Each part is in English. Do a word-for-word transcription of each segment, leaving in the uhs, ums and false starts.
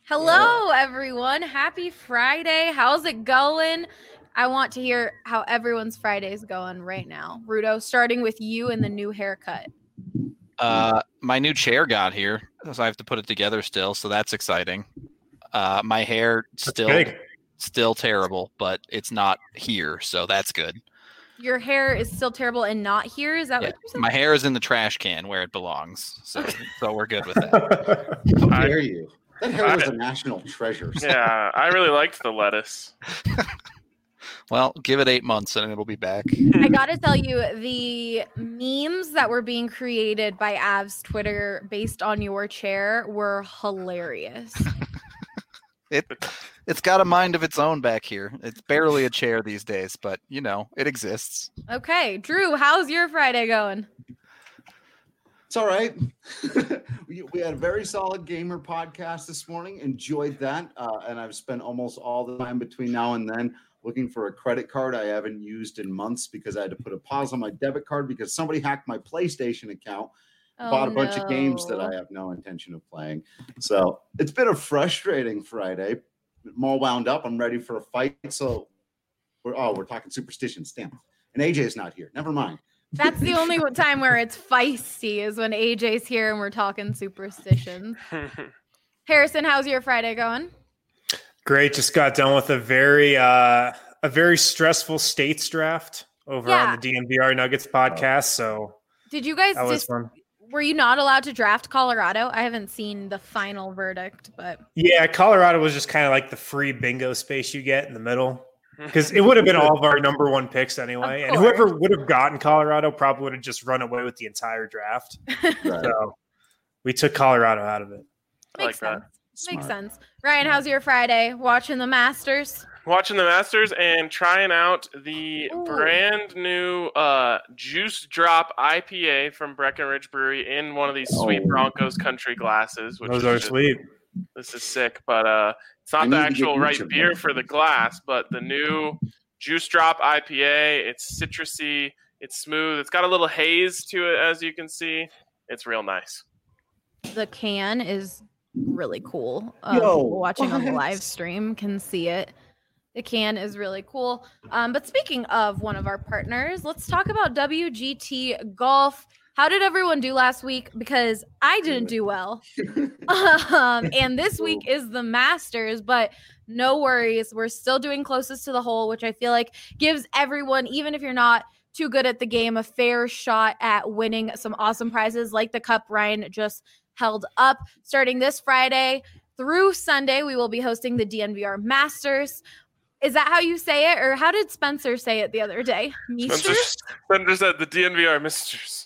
Hello, everyone. Happy Friday. How's it going? I want to hear how everyone's Friday is going right now. Rudo, starting with you and the new haircut. Uh, my new chair got here, so I have to put it together still. So that's exciting. Uh, my hair still big. still terrible, but it's not here, so that's good. Your hair is still terrible and not here. Is that Yeah, what you said? my hair is in the trash can where it belongs, so so we're good with that. How dare you? That hair was a national treasure. Yeah, I really liked the lettuce. Well, give it eight months and it'll be back. I gotta tell you, the memes that were being created by Av's Twitter based on your chair were hilarious. It it's got a mind of its own back here. It's barely a chair these days, but you know, it exists. Okay, Drew, how's your Friday going? It's all right. we, we had a very solid gamer podcast this morning. Enjoyed that. Uh, and I've spent almost all the time between now and then looking for a credit card I haven't used in months because I had to put a pause on my debit card because somebody hacked my PlayStation account. Oh, bought a bunch no. of games that I have no intention of playing. So it's been a frustrating Friday. I'm all wound up. I'm ready for a fight. So we're oh, we're talking superstitions. Damn. And A J's not here. Never mind. That's the only time where it's feisty is when A J's here and we're talking superstitions. Harrison, how's your Friday going? Great. Just got done with a very uh, a very stressful states draft over Yeah. on the D N V R Nuggets podcast. So Did you guys that was just fun. were you not allowed to draft Colorado? I haven't seen the final verdict, but Yeah, Colorado was just kind of like the free bingo space you get in the middle. Because it would have been all of our number one picks anyway. Of And whoever would have gotten Colorado probably would have just run away with the entire draft. Right. So we took Colorado out of it. I like makes that. sense. Makes Smart. sense. Ryan, how's your Friday? Watching the Masters? Watching the Masters and trying out the Ooh. brand new uh, Juice Drop I P A from Breckenridge Brewery in one of these sweet Oh. Broncos country glasses. Which Those is are just- sweet. This is sick, but uh, it's not I the need to get actual each right of beer them. for the glass, but the new Juice Drop I P A. It's citrusy. It's smooth. It's got a little haze to it, as you can see. It's real nice. The can is really cool. Um, Yo, people watching on the what? live stream can see it. The can is really cool. Um, but speaking of one of our partners, let's talk about W G T Golf. How did everyone do last week? Because I didn't do well. um, and this week is the Masters, but no worries. We're still doing closest to the hole, which I feel like gives everyone, even if you're not too good at the game, a fair shot at winning some awesome prizes like the cup Ryan just held up. Starting this Friday through Sunday, we will be hosting the D N V R Masters. Is that how you say it? Or how did Spencer say it the other day? Spencer, Meesters? Spencer said the D N V R Misters.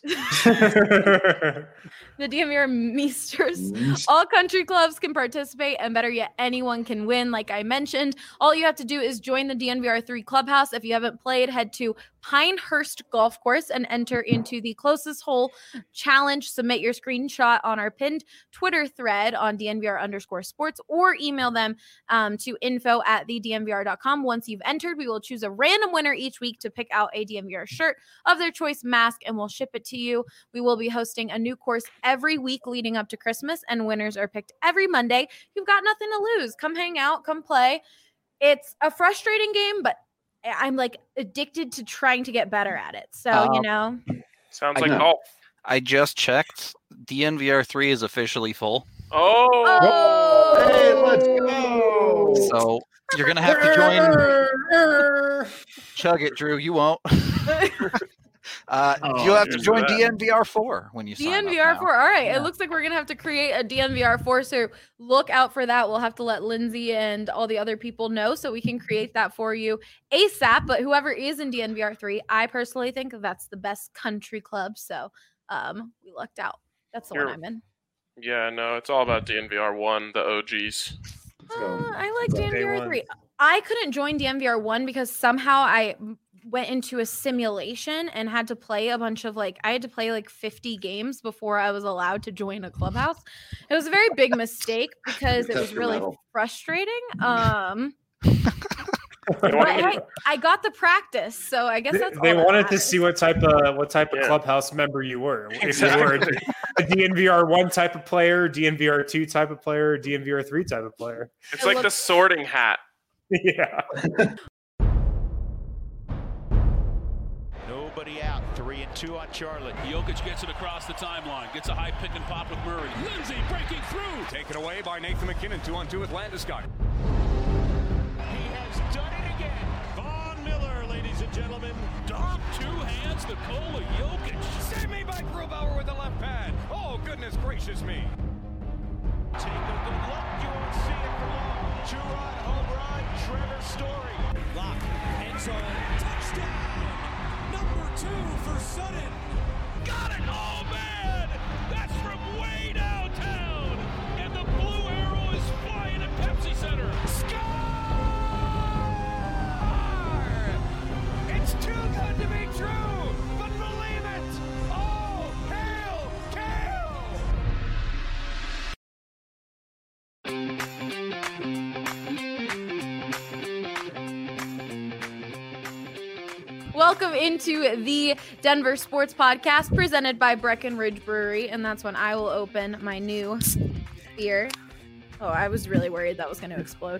The D M V R Meesters. Meesters. All country clubs can participate, and better yet, anyone can win. Like I mentioned, all you have to do is join the D N V R three Clubhouse. If you haven't played, head to Pinehurst Golf Course and enter into the closest hole challenge. Submit your screenshot on our pinned Twitter thread on D N V R underscore sports, or email them um, to info at the D N V R dot com. Once you've entered, we will choose a random winner each week to pick out a D N V R shirt of their choice, mask, and we'll ship it to you. We will be hosting a new course every week leading up to Christmas, and winners are picked every Monday. You've got nothing to lose. Come hang out, come play. It's a frustrating game, but I'm like addicted to trying to get better at it. So, Um, you know, Sounds I like know. golf. I just checked. D N V R three is officially full. Oh, oh, Hey, let's go. So you're gonna have to join Chug it, Drew. You won't. uh, Oh, you'll have to here's join that. D N V R four when you sign up D N V R now. four. All right. Yeah. It looks like we're going to have to create a D N V R four. So look out for that. We'll have to let Lindsay and all the other people know so we can create that for you ASAP. But whoever is in D N V R three, I personally think that's the best country club. So um, we lucked out. That's the one You're- I'm in. yeah, no, it's all about D N V R one, the O Gs. Let's go. Uh, I like Let's go. D N V R Day one. three. I couldn't join D N V R one because somehow I m- went into a simulation and had to play a bunch of like I had to play like fifty games before I was allowed to join a clubhouse. It was a very big mistake because it Test was your really mettle. frustrating. Um They But wanted, hey, I got the practice, so I guess They, that's all they that wanted to matters. see what type of what type of Yeah. clubhouse member you were. If Exactly. you were a, a D N V R one type of player, D N V R two type of player, or D N V R three type of player. it's It like the looks- sorting hat. Yeah. Nobody out. Three and two on Charlotte. Jokic gets it across the timeline. Gets a high pick and pop with Murray. Lindsay breaking through. Taken away by Nathan McKinnon, two on two with Landeskog. He has done it again. Von Miller, ladies and gentlemen. Dom, two hands, Nikola Jokic. Save me by Grubauer with the left pad. Oh, goodness gracious me. Take a good look. You won't see it for long. Two-run home run. Trevor Story. Lock. End zone. Touchdown. Number two for Sutton. Got it. Oh, man. That's from way downtown. And the blue arrow is flying at Pepsi Center. Score! It's too good to be true, but believe it. Oh, hail, Kale! Welcome into the Denver Sports Podcast presented by Breckenridge Brewery, and that's when I will open my new beer. Oh, I was really worried that was going to explode.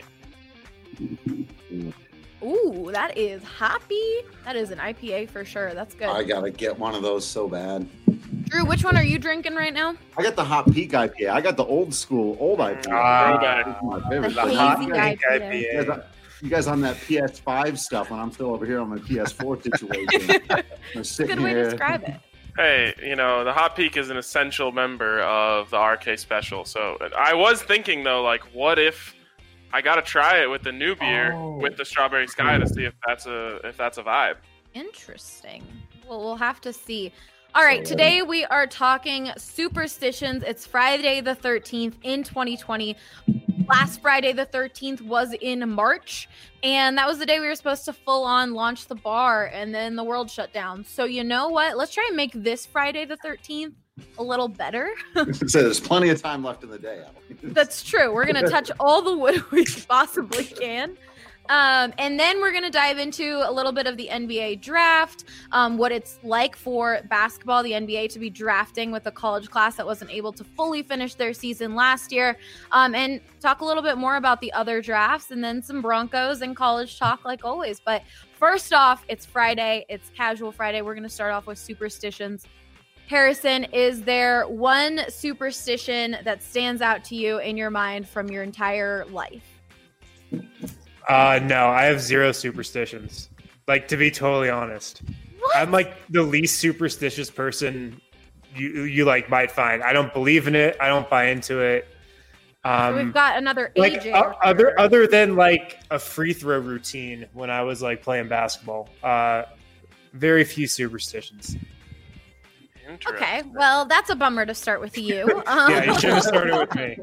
Ooh, that is hoppy. That is an I P A for sure. That's good. I gotta get one of those so bad. Drew, which one are you drinking right now? I got the Hot Peak I P A. I got the old school old I P A. Ah, That's my favorite. The The hot hazy pink I P A. You guys, you guys on that P S five stuff when I'm still over here on my P S four situation. I'm sitting Good way to here. describe it. Hey, you know, the Hot Peak is an essential member of the R K Special. So I was thinking, though, like, what if I got to try it with the new beer Oh. with the Strawberry Sky to see if that's a if that's a vibe. Interesting. Well, we'll have to see. All right, today we are talking superstitions. It's Friday the thirteenth in twenty twenty. Last Friday the thirteenth was in March, and that was the day we were supposed to full on launch the bar, and then the world shut down. So you know what? Let's try and make this Friday the thirteenth a little better. So there's plenty of time left in the day. Alex. That's true. We're going to touch all the wood we possibly can. Um, and then we're going to dive into a little bit of the N B A draft, um, what it's like for basketball, the N B A to be drafting with a college class that wasn't able to fully finish their season last year, um, and talk a little bit more about the other drafts, and then some Broncos and college talk like always. But first off, it's Friday. It's Casual Friday. We're going to start off with superstitions. Harrison, is there one superstition that stands out to you in your mind from your entire life? Uh, no, I have zero superstitions. Like, to be totally honest, What? I'm like the least superstitious person you you like might find. I don't believe in it. I don't buy into it. Um, We've got another A like J. uh, over other here. other than like a free throw routine when I was like playing basketball. Uh, very few superstitions. Interesting. Okay, well, that's a bummer to start with you. Um, Yeah, you should have started with me.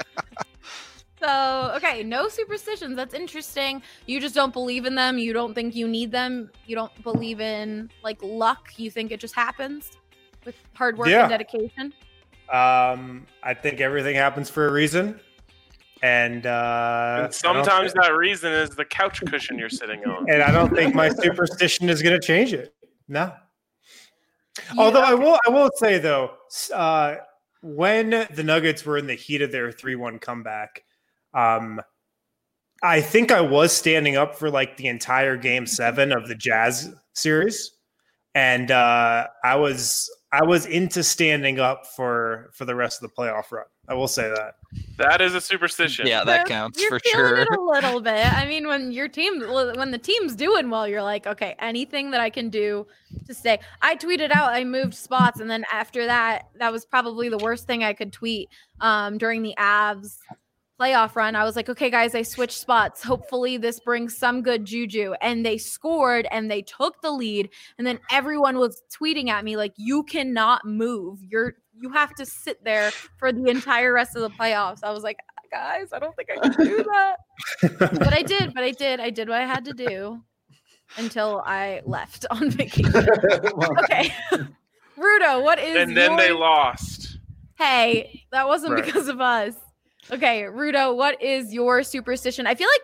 So, okay, no superstitions. That's interesting. You just don't believe in them. You don't think you need them. You don't believe in like luck. You think it just happens with hard work Yeah. and dedication. Um, I think everything happens for a reason, and uh, And sometimes that reason is the couch cushion you're sitting on. and I don't think my superstition is going to change it. No. Although I will, I will say though, uh, when the Nuggets were in the heat of their three one comeback, um, I think I was standing up for like the entire game seven of the Jazz series, and uh, I was I was into standing up for for the rest of the playoff run. I will say that. That is a superstition. Yeah, that You're- counts you're for feeling sure. it a little bit. I mean, when your team, when the team's doing well, you're like, okay, anything that I can do to stay. I tweeted out I moved spots, and then after that, that was probably the worst thing I could tweet um, during the Avs playoff run. I was like, okay, guys, I switched spots. Hopefully, this brings some good juju. And they scored, and they took the lead, and then everyone was tweeting at me like, you cannot move. You're you have to sit there for the entire rest of the playoffs. I was like, guys, I don't think I can do that. But I did, but I did. I did what I had to do until I left on vacation. Okay. Rudo, what is And then your... they lost. Hey, that wasn't Right. because of us. Okay, Rudo, what is your superstition? I feel like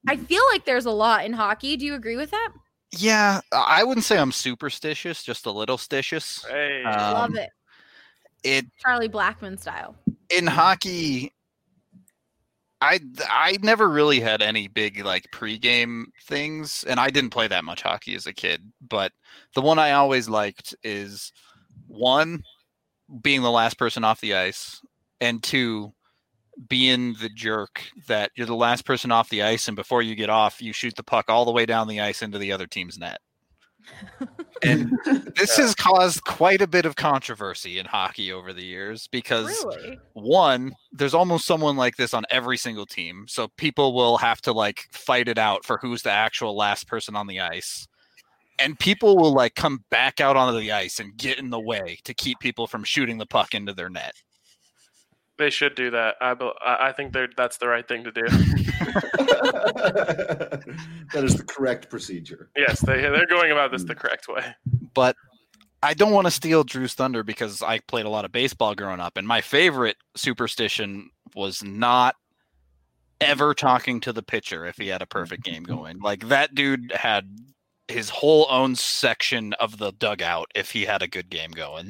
I feel like there's a lot in hockey. Do you agree with that? Yeah, I wouldn't say I'm superstitious, just a little stitious. Hey, Um, Love it. It Charlie Blackmon style. in hockey, I I never really had any big like pregame things, and I didn't play that much hockey as a kid. But the one I always liked is one, being the last person off the ice, and two, being the jerk that you're the last person off the ice, and before you get off, you shoot the puck all the way down the ice into the other team's net. And this has caused quite a bit of controversy in hockey over the years because Really? one, there's almost someone like this on every single team. So people will have to like fight it out for who's the actual last person on the ice. And people will like come back out onto the ice and get in the way to keep people from shooting the puck into their net. they should do that. I bel- I I think they're that's the right thing to do. That is the correct procedure. Yes, they they're going about this the correct way. But I don't want to steal Drew's thunder because I played a lot of baseball growing up, and my favorite superstition was not ever talking to the pitcher if he had a perfect game going. Like that dude had his whole own section of the dugout if he had a good game going.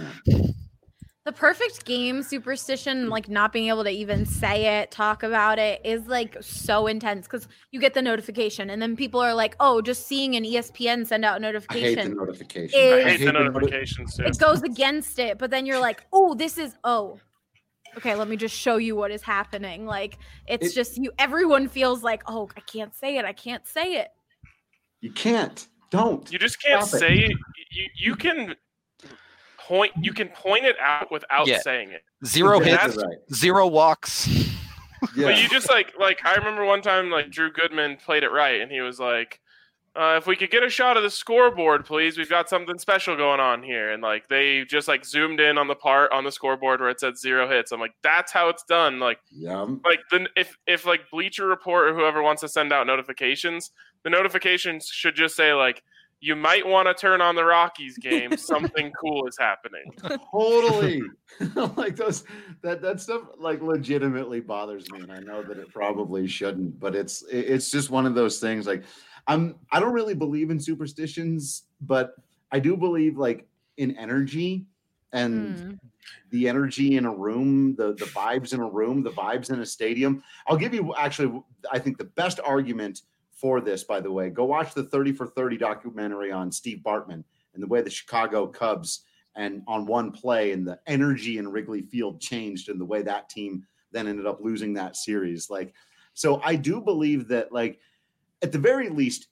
The perfect game superstition, like not being able to even say it, talk about it, is like so intense because you get the notification and then people are like, oh, just seeing an E S P N send out a I notification. hate the notification. Is- I hate the noti- notifications too. It goes against it, but then you're like, oh, this is, oh, okay, let me just show you what is happening. Like, it's It- just you, everyone feels like, oh, I can't say it. I can't say it. You can't. Don't. You just can't Stop it. say it. You you can point you can point it out without Yeah. saying it. Zero Exactly hits, right. zero walks. Yeah. But you just like like I remember one time like Drew Goodman played it right and he was like, uh, if we could get a shot of the scoreboard, please, we've got something special going on here. And like they just like zoomed in on the part on the scoreboard where it said zero hits. I'm like, that's how it's done. Like Yum. like then if if like Bleacher Report or whoever wants to send out notifications, the notifications should just say like, you might want to turn on the Rockies game. Something cool is happening. Totally. Like those that that stuff like legitimately bothers me, and I know that it probably shouldn't, but it's it- it's just one of those things. Like I'm I don't really believe in superstitions, but I do believe like in energy and Mm. the energy in a room, the the vibes in a room, the vibes in a stadium. I'll give you actually I think the best argument for this, by the way. Go watch the thirty for thirty documentary on Steve Bartman and the way the Chicago Cubs and on one play and the energy in Wrigley Field changed and the way that team then ended up losing that series. Like, so I do believe that, like, at the very least,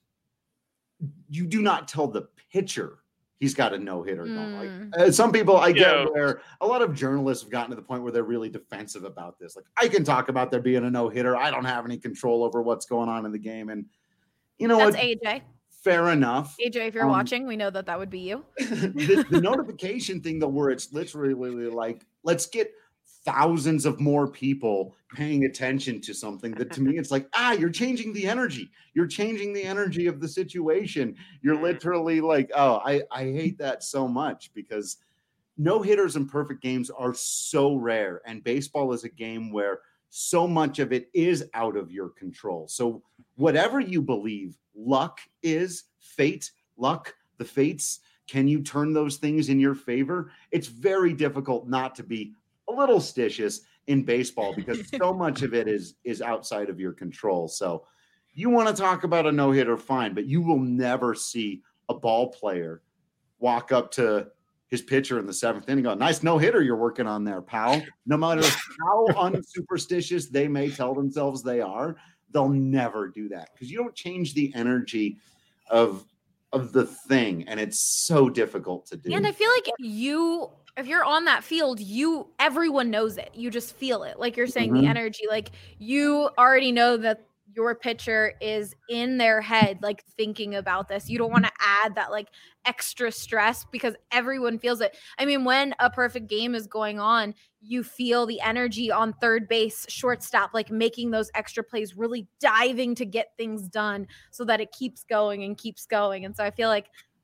you do not tell the pitcher he's got a no hitter. Mm. Like, uh, some people, I get Yeah. where a lot of journalists have gotten to the point where they're really defensive about this. Like, I can talk about there being a no hitter. I don't have any control over what's going on in the game. And you know That's what? A J. Fair enough. A J, if you're Um, watching, we know that that would be you. the, the notification thing, though, where it's literally like, let's get thousands of more people paying attention to something that to me, it's like, ah, you're changing the energy. You're changing the energy of the situation. You're literally like, oh, I, I hate that so much because no hitters and perfect games are so rare. And baseball is a game where so much of it is out of your control. So whatever you believe, luck is, fate, luck, the fates, can you turn those things in your favor? It's very difficult not to be a little stitious in baseball because so much of it is is outside of your control. So you want to talk about a no-hitter, fine, but you will never see a ball player walk up to his pitcher in the seventh inning and go, nice no-hitter you're working on there, pal. No matter how unsuperstitious they may tell themselves they are, they'll never do that because you don't change the energy of of the thing, and it's so difficult to do. And I feel like you, if you're on that field, you, everyone knows it. You just feel it. Like you're saying, Mhm. the energy, like you already know that your pitcher is in their head, like thinking about this. You don't want to add that like extra stress because everyone feels it. I mean, when a perfect game is going on, you feel the energy on third base, shortstop, like making those extra plays, really diving to get things done so that it keeps going and keeps going. And so I feel like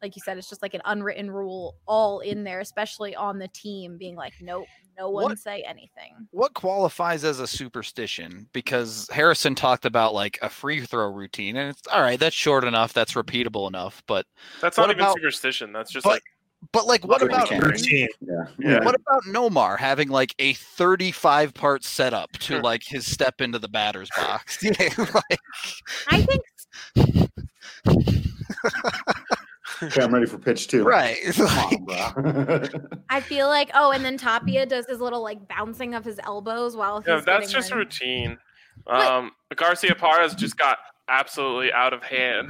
like you said, it's just like an unwritten rule all in there, especially on the team being like, nope, no one What- say anything. What qualifies as a superstition? Because Harrison talked about like a free throw routine, and it's all right. That's short enough. That's repeatable enough. But That's What not even about- superstition. That's just but like but like, what Good about mechanics. Routine. Yeah. Yeah. what about Nomar having like a thirty-five part setup to like his step into the batter's box? Yeah, like, I think Okay, I'm ready for pitch two. right. Come Like, on, bro. I feel like oh, and then Tapia does his little like bouncing of his elbows while he's yeah, that's getting just ready. routine. But- Um, Garcia Parra's just got absolutely out of hand.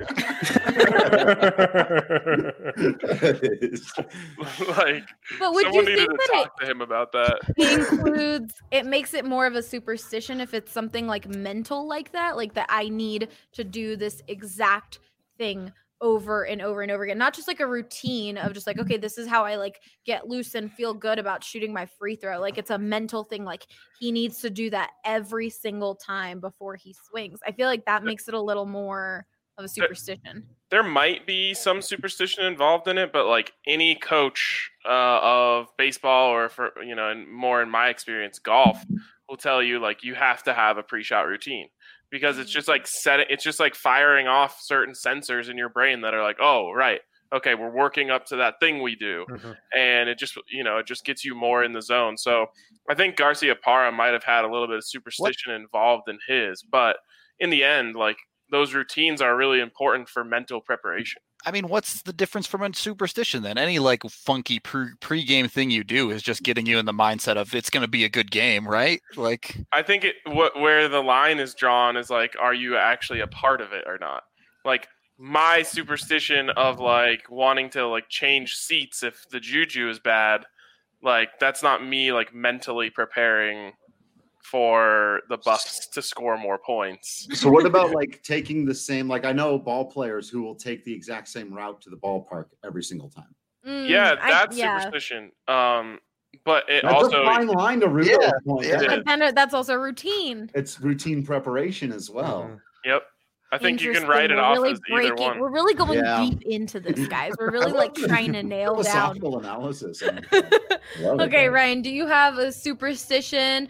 It is. Like But would someone you needed think to that talk to him about that. it includes it makes it more of a superstition if it's something like mental like that, like that I need to do this exact thing over and over and over again, not just like a routine of just like, okay, this is how I like get loose and feel good about shooting my free throw. Like it's a mental thing, like he needs to do that every single time before he swings. I feel like that makes it a little more of a superstition. There might be some superstition involved in it, but like any coach uh, of baseball or for you know, and more in my experience, golf will tell you like you have to have a pre-shot routine because it's just like set it's just like firing off certain sensors in your brain that are like, oh right, okay, we're working up to that thing we do, Mhm. and it just you know it just gets you more in the zone. So I think Garcia Parra might have had a little bit of superstition involved in his, but in the end, like those routines are really important for mental preparation. I mean, what's the difference from a superstition then? Any like funky pre pre-game thing you do is just getting you in the mindset of it's going to be a good game, right? Like, I think it what where the line is drawn is like, are you actually a part of it or not? Like my superstition of like wanting to like change seats if the juju is bad, like that's not me like mentally preparing for the Bucks to score more points. So what about like taking the same, like I know ball players who will take the exact same route to the ballpark every single time. Mm, Yeah, I- that's yeah. superstition. Um, but it That's also a fine line to really Yeah, point. yeah. But then that's also routine. It's routine preparation as well. Mhm. Yep. I think you can Interesting. write it We're off really as either breaking- one. We're really going Yeah. deep into this, guys. We're really I like love trying to the nail down. philosophical analysis. I love it, Okay, man. Ryan, do you have a superstition?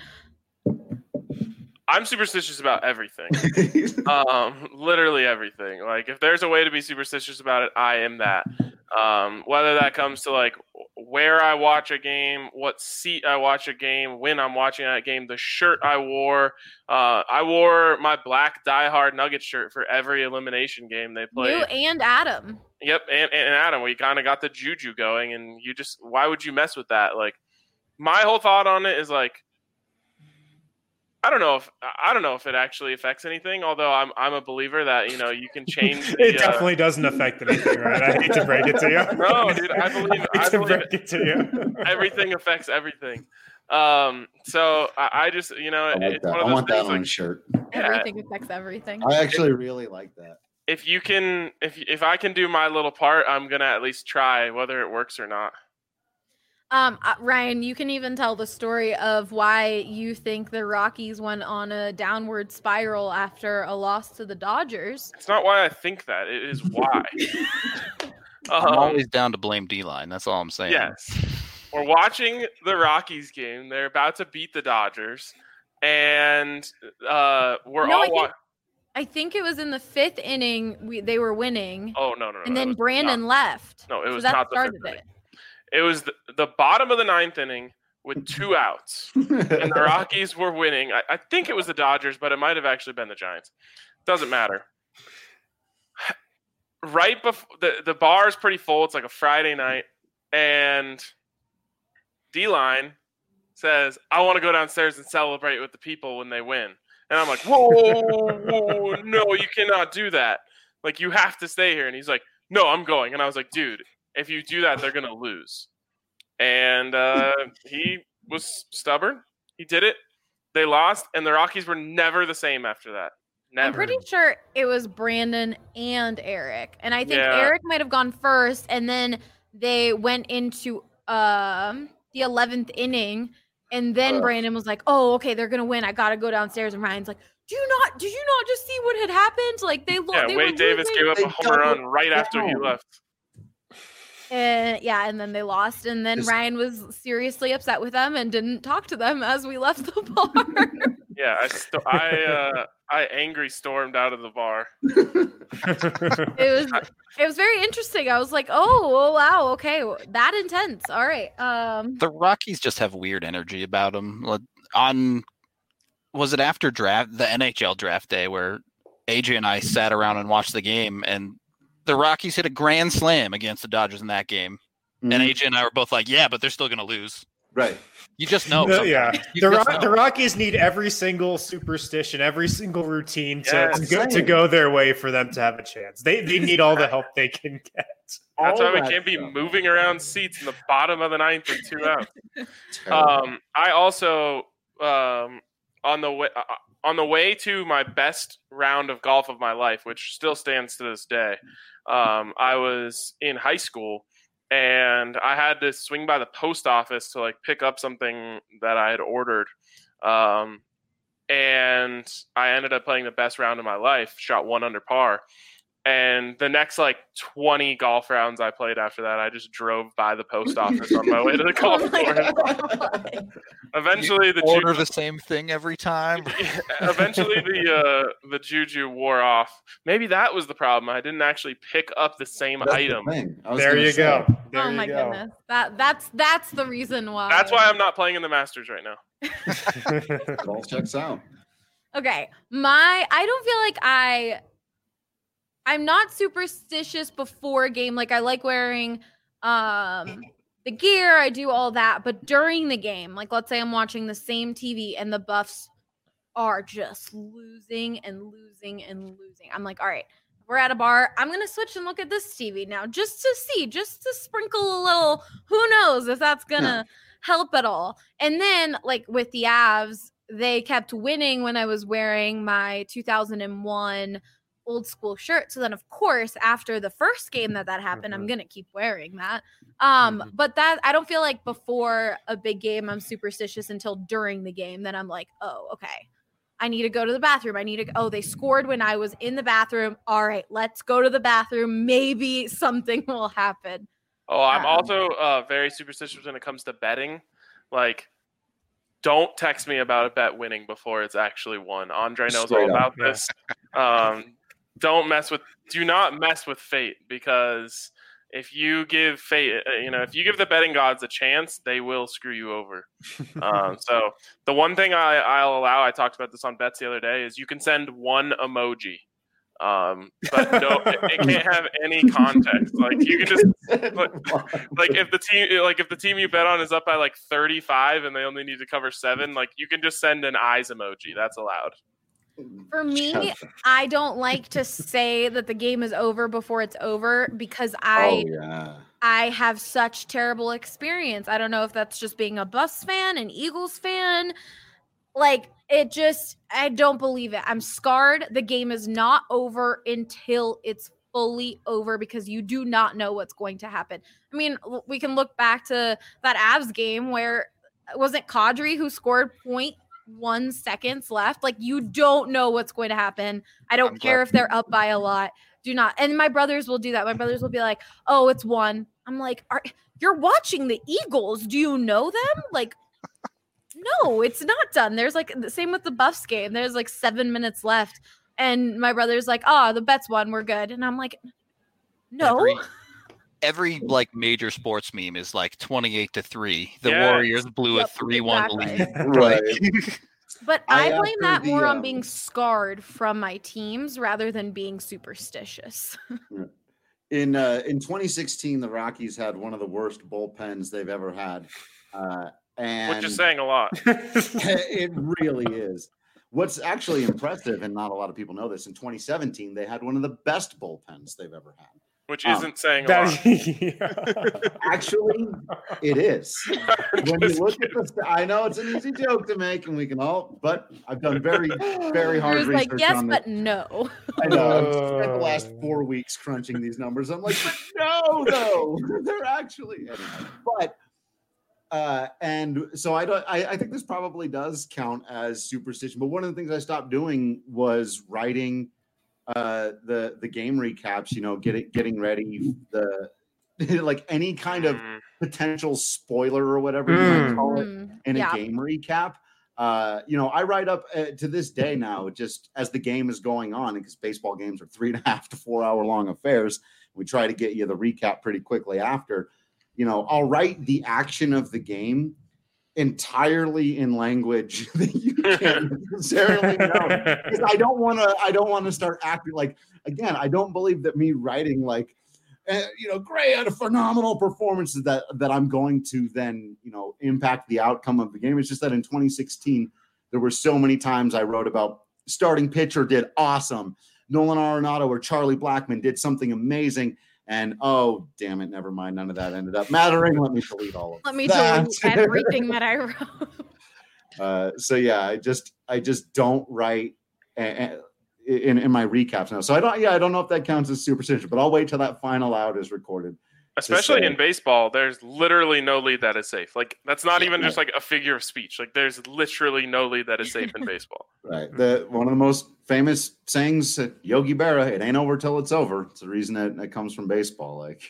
I'm superstitious about everything. um, literally everything. Like if there's a way to be superstitious about it, I am that. Um, whether that comes to like where I watch a game, what seat I watch a game, when I'm watching that game, the shirt I wore. Uh, I wore my black Die Hard Nuggets shirt for every elimination game they played. You and Adam. Yep, and, and Adam, we kind of got the juju going, and you just why would you mess with that? Like my whole thought on it is like I don't know if I don't know if it actually affects anything. Although I'm I'm a believer that you know you can change. The, It uh, definitely doesn't affect anything, right? I hate to break it to you. No, dude, I believe- hate I to believe- break it to you. everything affects everything. Um, so I, I just you know I like it's that. one I of those want that things on a like shirt. yeah, Everything affects everything. I actually really like that. if you can if if I can do my little part, I'm gonna at least try whether it works or not. Um, uh, Ryan, you can even tell the story of why you think the Rockies went on a downward spiral after a loss to the Dodgers. It's not why I think that. It is why. I'm um, always down to blame D-line. That's all I'm saying. Yes. We're watching the Rockies game. They're about to beat the Dodgers. And uh, we're No, I all think- wa- I think it was in the fifth inning we, they were winning, Oh, no, no, no. and it then was Brandon not- left. No, it So was that not the started fifth it. inning. It was the, the bottom of the ninth inning with two outs. And the Rockies were winning. I, I think it was the Dodgers, but it might have actually been the Giants. Doesn't matter. Right before the, the bar is pretty full. It's like a Friday night. And D-Line says, I want to go downstairs and celebrate with the people when they win. And I'm like, whoa, whoa, no, you cannot do that. Like, you have to stay here. And he's like, no, I'm going. And I was like, dude, if you do that, they're going to lose. And uh, he was stubborn. He did it. They lost. And the Rockies were never the same after that. Never. I'm pretty sure it was Brandon and Eric. And I think Yeah. Eric might have gone first, and then they went into um the eleventh inning, and then Ugh. Brandon was like, oh, okay, they're gonna win. I gotta go downstairs. And Ryan's like, do you not did you not just see what had happened? Like they lost. yeah, they Wade were Davis losing. gave up They a home run doubled right after he down. left. And yeah, and then they lost, and then Just- Ryan was seriously upset with them and didn't talk to them as we left the bar. Yeah, I sto- I uh, I angry stormed out of the bar. It was it was very interesting. I was like, oh, oh wow, okay, that intense. All right. Um The Rockies just have weird energy about them. On was it after draft the N H L draft day where A J and I sat around and watched the game, and the Rockies hit a grand slam against the Dodgers in that game, Mhm. and A J and I were both like, "Yeah, but they're still going to lose." Right. You just know. The- yeah, sometimes. You the, just Ro- know. the Rockies need every single superstition, every single routine to, Yes. to, go, to go their way for them to have a chance. They they need all the help they can get. That's All why we that can't be stuff. moving around seats in the bottom of the ninth with two outs. Terrible. Um, I also um, on the way uh, on the way to my best round of golf of my life, which still stands to this day. Um, I was in high school, and I had to swing by the post office to like pick up something that I had ordered. Um, and I ended up playing the best round of my life, shot one under par. And the next like twenty golf rounds I played after that, I just drove by the post office on my way to the golf Oh my course. God. Eventually, the order ju- the same thing every time. eventually the uh, the juju wore off. Maybe that was the problem. I didn't actually pick up the same That's the item. thing. I was There gonna you say. go. There Oh you my go. goodness. That that's that's the reason why. That's why I'm not playing in the Masters right now. It all checks out. Okay. My I don't feel like I I'm not superstitious before a game. Like I like wearing um the gear, I do all that, but during the game, like let's say I'm watching the same T V and the Buffs are just losing and losing and losing. I'm like, all right, we're at a bar. I'm gonna switch and look at this T V now just to see, just to sprinkle a little, who knows if that's gonna help at all. And then like with the Avs, they kept winning when I was wearing my two thousand one old school shirt. So then of course, after the first game that that happened, I'm Mhm. going to keep wearing that. Um, Mhm. but that I don't feel like before a big game, I'm superstitious until during the game. Then I'm like, oh, okay. I need to go to the bathroom. I need to, oh, they scored when I was in the bathroom. All right, let's go to the bathroom. Maybe something will happen. Oh, I'm Um, also uh, very superstitious when it comes to betting. Like, don't text me about a bet winning before it's actually won. Andre knows Straight all up, about this. Um, don't mess with, do not mess with fate, because if you give fate, uh, you know, if you give the betting gods a chance, they will screw you over. um, so the one thing I, I'll allow, I talked about this on bets the other day, is you can send one emoji. Um, but no, it, it can't have any context. Like you can just like if the team like if the team you bet on is up by like thirty-five and they only need to cover seven, like you can just send an eyes emoji. That's allowed. For me, I don't like to say that the game is over before it's over because I oh yeah. I have such terrible experience. I don't know if that's just being a Buffs fan, an Eagles fan. Like it just, I don't believe it. I'm scarred. The game is not over until it's fully over because you do not know what's going to happen. I mean, l- we can look back to that Avs game where wasn't Kadri who scored point one seconds left. Like you don't know what's going to happen. I don't I'm care glad- if they're up by a lot. Do not. And my brothers will do that. My brothers will be like, "Oh, it's one." I'm like, "Are you're watching the Eagles? Do you know them?" Like, no, it's not done. There's like the same with the Buffs game. There's like seven minutes left, and my brother's like, "Oh, the bet's won. We're good." And I'm like, "No." Every, every like major sports meme is like twenty-eight to three. The Yes. Warriors blew Yep, a three one exactly. lead. Right. Like, But I, I blame after that the, more on um, being scarred from my teams rather than being superstitious. In uh, in twenty sixteen, the Rockies had one of the worst bullpens they've ever had, uh, and Which is saying a lot. it really is. What's actually impressive, and not a lot of people know this, in twenty seventeen they had one of the best bullpens they've ever had. Which Um, isn't saying a lot. That- Actually, it is. When you Just look at the, I know it's an easy joke to make, and we can all, but I've done very, very He hard was research like, yes, on this. but no. I know. I've spent the last four weeks crunching these numbers. I'm like, but no, no, they're actually. Anyway, but uh, and so I don't. I, I think this probably does count as superstition. But one of the things I stopped doing was writing uh, the the game recaps. You know, getting getting ready the like any kind of Mm. potential spoiler or whatever you might Mm. call it Mm, in yeah. a game recap. Uh, you know, I write up uh, to this day now, just as the game is going on, because baseball games are three and a half to four hour long affairs. We try to get you the recap pretty quickly after. You know, I'll write the action of the game entirely in language that you can't necessarily know. Because I don't want to. I don't want to start acting like. Again, I don't believe that me writing like. Uh, you know, Gray had a phenomenal performance that that I'm going to then, you know, impact the outcome of the game. It's just that in twenty sixteen, there were so many times I wrote about starting pitcher did awesome. Nolan Arenado or Charlie Blackmon did something amazing. And oh, damn it, never mind. None of that ended up mattering. Let me delete all of Let me that. delete everything that I wrote. Uh, so yeah, I just I just don't write uh, in in my recaps now. So I don't yeah I don't know if that counts as superstition, but I'll wait till that final out is recorded. Especially say- in baseball, there's literally no lead that is safe. Like that's not Yeah. even just like a figure of speech. Like there's literally no lead that is safe in baseball. Right. The one of the most famous sayings at Yogi Berra, it ain't over till it's over. It's the reason that it comes from baseball. Like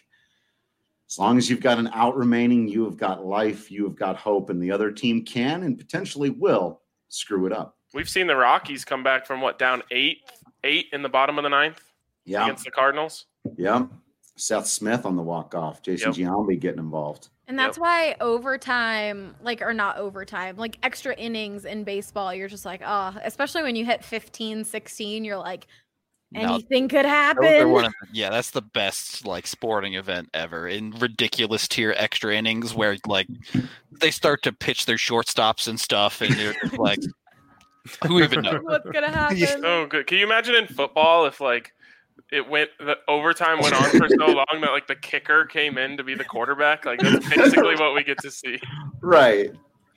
as long as you've got an out remaining, you have got life, you have got hope, and the other team can and potentially will screw it up. We've seen the Rockies come back from what down eight, eight in the bottom of the ninth Yeah. against the Cardinals. Yeah. Seth Smith on the walk-off. Jason Yep. Giambi getting involved. And that's Yep. why overtime, like, or not overtime, like extra innings in baseball, you're just like, oh, especially when you hit fifteen, sixteen, you're like, No, anything could those are happen. one of the- yeah, that's the best like sporting event ever in ridiculous tier extra innings where like they start to pitch their shortstops and stuff, and you're just like, who even knows? What's going to happen? So good. Can you imagine in football if like it went the overtime went on for so long that like the kicker came in to be the quarterback? Like that's basically what we get to see. Right.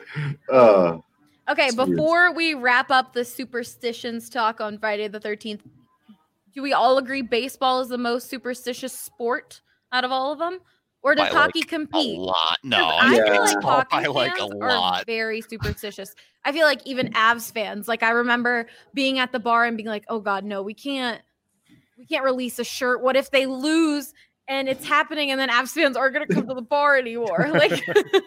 Uh, Okay, It's weird. before we wrap up the superstitions talk on Friday the thirteenth, do we all agree baseball is the most superstitious sport out of all of them? Or does By, like, hockey A compete? lot. 'Cause No, I Yeah. feel like baseball hockey by like a fans are lot. very superstitious. I feel like even Avs fans, like I remember being at the bar and being like, "Oh God, no, we can't, we can't release a shirt. What if they lose and it's happening, and then Avs fans aren't going to come to the bar anymore?" Like,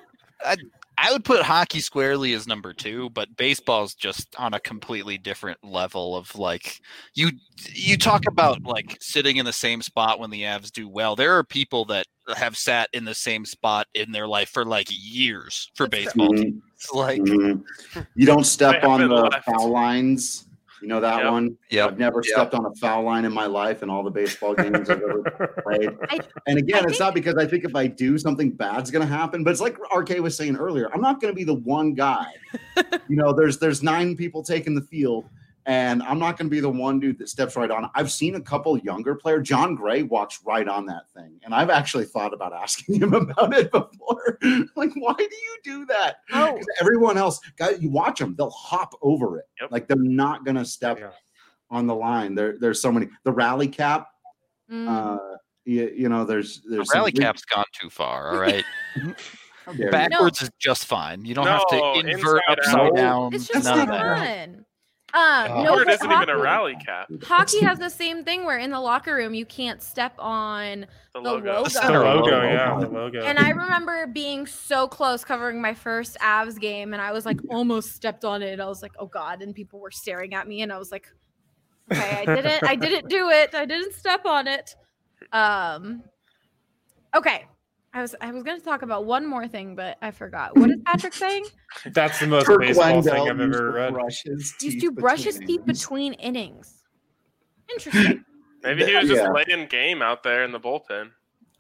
I would put hockey squarely as number two, but baseball's just on a completely different level of like you you talk about like sitting in the same spot when the Avs do well. There are people that have sat in the same spot in their life for like years for That's baseball mhm, teams. Like mhm. You don't step They on haven't the left. foul lines. You know that Yep. one? Yep. I've never Yep. stepped on a foul line in my life in all the baseball games I've ever played. I- And again, I it's not because I think if I do, something bad's going to happen. But it's like R K was saying earlier. I'm not going to be the one guy. You know, there's there's nine people taking the field, and I'm not going to be the one dude that steps right on. I've seen a couple younger players. John Gray walks right on that thing, and I've actually thought about asking him about it before. Like, why do you do that? Oh. 'Cause everyone else, guys, you watch them, they'll hop over it. Yep. Like they're not going to step Yeah. on the line. There, there's so many. The rally cap. mm. Uh, you, you know, there's the there's some rally big- cap's gone too far. All right, How dare you. backwards is just fine. You don't have No, to invert inside upside out. down. It's just none so of that. fun. Um, Oh. no, Or it but isn't even a hockey- rally cap. Hockey has the same thing where in the locker room you can't step on The the logo. logo. The The center logo, logo. yeah, the logo. And I remember being so close covering my first Avs game, and I was like almost stepped on it. I was like, "Oh God!" And people were staring at me, and I was like, "Okay, I didn't, I didn't do it. I didn't step on it." Um, okay, I was, I was going to talk about one more thing, but I forgot. What is Patrick saying? That's the most Kirk baseball Wendell thing I've used ever to read. brush his Used teeth to brush his between teeth innings. between innings. Interesting. Maybe he was just Yeah. laying game out there in the bullpen.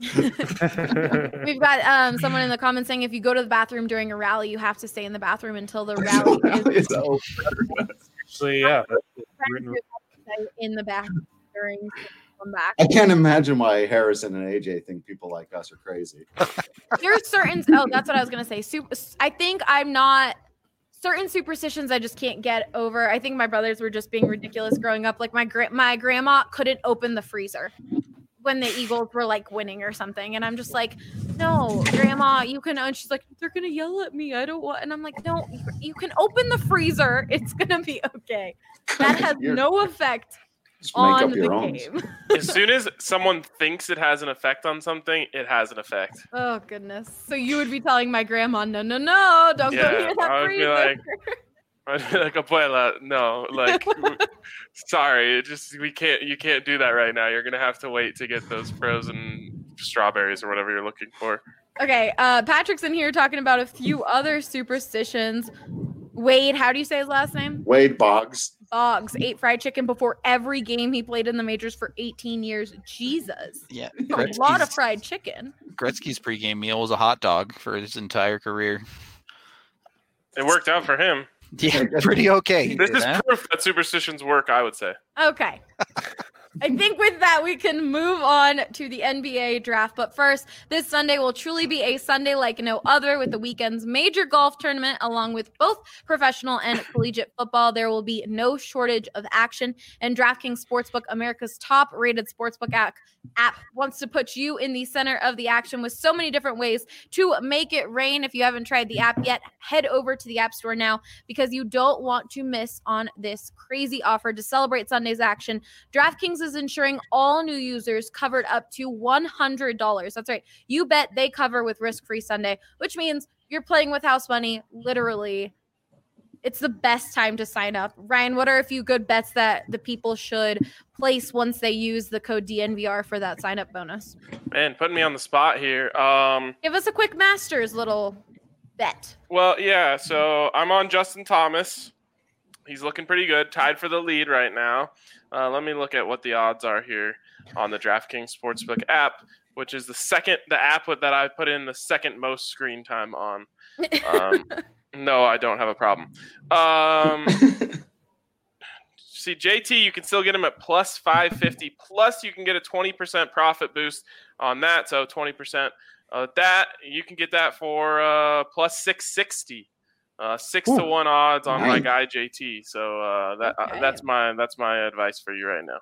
We've got um, someone in the comments saying if you go to the bathroom during a rally, you have to stay in the bathroom until the rally is It's over. Actually, yeah. that's written- in the bathroom during come back. I can't imagine why Harrison and A J think people like us are crazy. There's certain oh, that's what I was gonna say. Super, I think I'm not certain superstitions I just can't get over. I think my brothers were just being ridiculous growing up. Like my gra- my grandma couldn't open the freezer when the Eagles were like winning or something, and I'm just like, no, grandma, you can. And she's like, they're gonna yell at me. I don't want. And I'm like, no, you can open the freezer. It's gonna be okay. That has You're- no effect Just make on up your the own. game. As soon as someone thinks it has an effect on something, it has an effect. Oh goodness! So you would be telling my grandma, no, no, no, don't go Yeah, near that I would be freezer. like, I'd be like, abuela, no, like, sorry, it just we can't. You can't do that right now. You're gonna have to wait to get those frozen strawberries or whatever you're looking for. Okay, uh, Patrick's in here talking about a few other superstitions. Wade, how do you say his last name? Wade Boggs. Boggs ate fried chicken before every game he played in the majors for eighteen years. Jesus. Yeah, A lot of fried chicken. Gretzky's pregame meal was a hot dog for his entire career. It worked out for him. Yeah, pretty okay. This is huh? proof that superstitions work, I would say. Okay. I think with that, we can move on to the N B A draft. But first, this Sunday will truly be a Sunday like no other with the weekend's major golf tournament, along with both professional and collegiate football. There will be no shortage of action. And DraftKings Sportsbook, America's top-rated sportsbook app, app, wants to put you in the center of the action with so many different ways to make it rain. If you haven't tried the app yet, head over to the App Store now because you don't want to miss on this crazy offer to celebrate Sunday's action. DraftKings is ensuring all new users covered up to one hundred dollars. That's right. You bet they cover with risk-free Sunday, which means you're playing with house money, literally. It's the best time to sign up. Ryan, what are a few good bets that the people should place once they use the code D N V R for that sign-up bonus? Man, putting me on the spot here. Um, Give us a quick Masters little bet. well, yeah, so I'm on Justin Thomas. He's looking pretty good, tied for the lead right now. Uh, let me look at what the odds are here on the DraftKings Sportsbook app, which is the second, the app that I put in the second most screen time on. Um, no, I don't have a problem. Um, see, J T, you can still get him at plus five fifty. Plus, you can get a twenty percent profit boost on that. So twenty percent of that, you can get that for uh, plus six sixty. Uh, six Ooh, to one odds on my nice. guy J T. So uh, that Okay. uh, that's my that's my advice for you right now.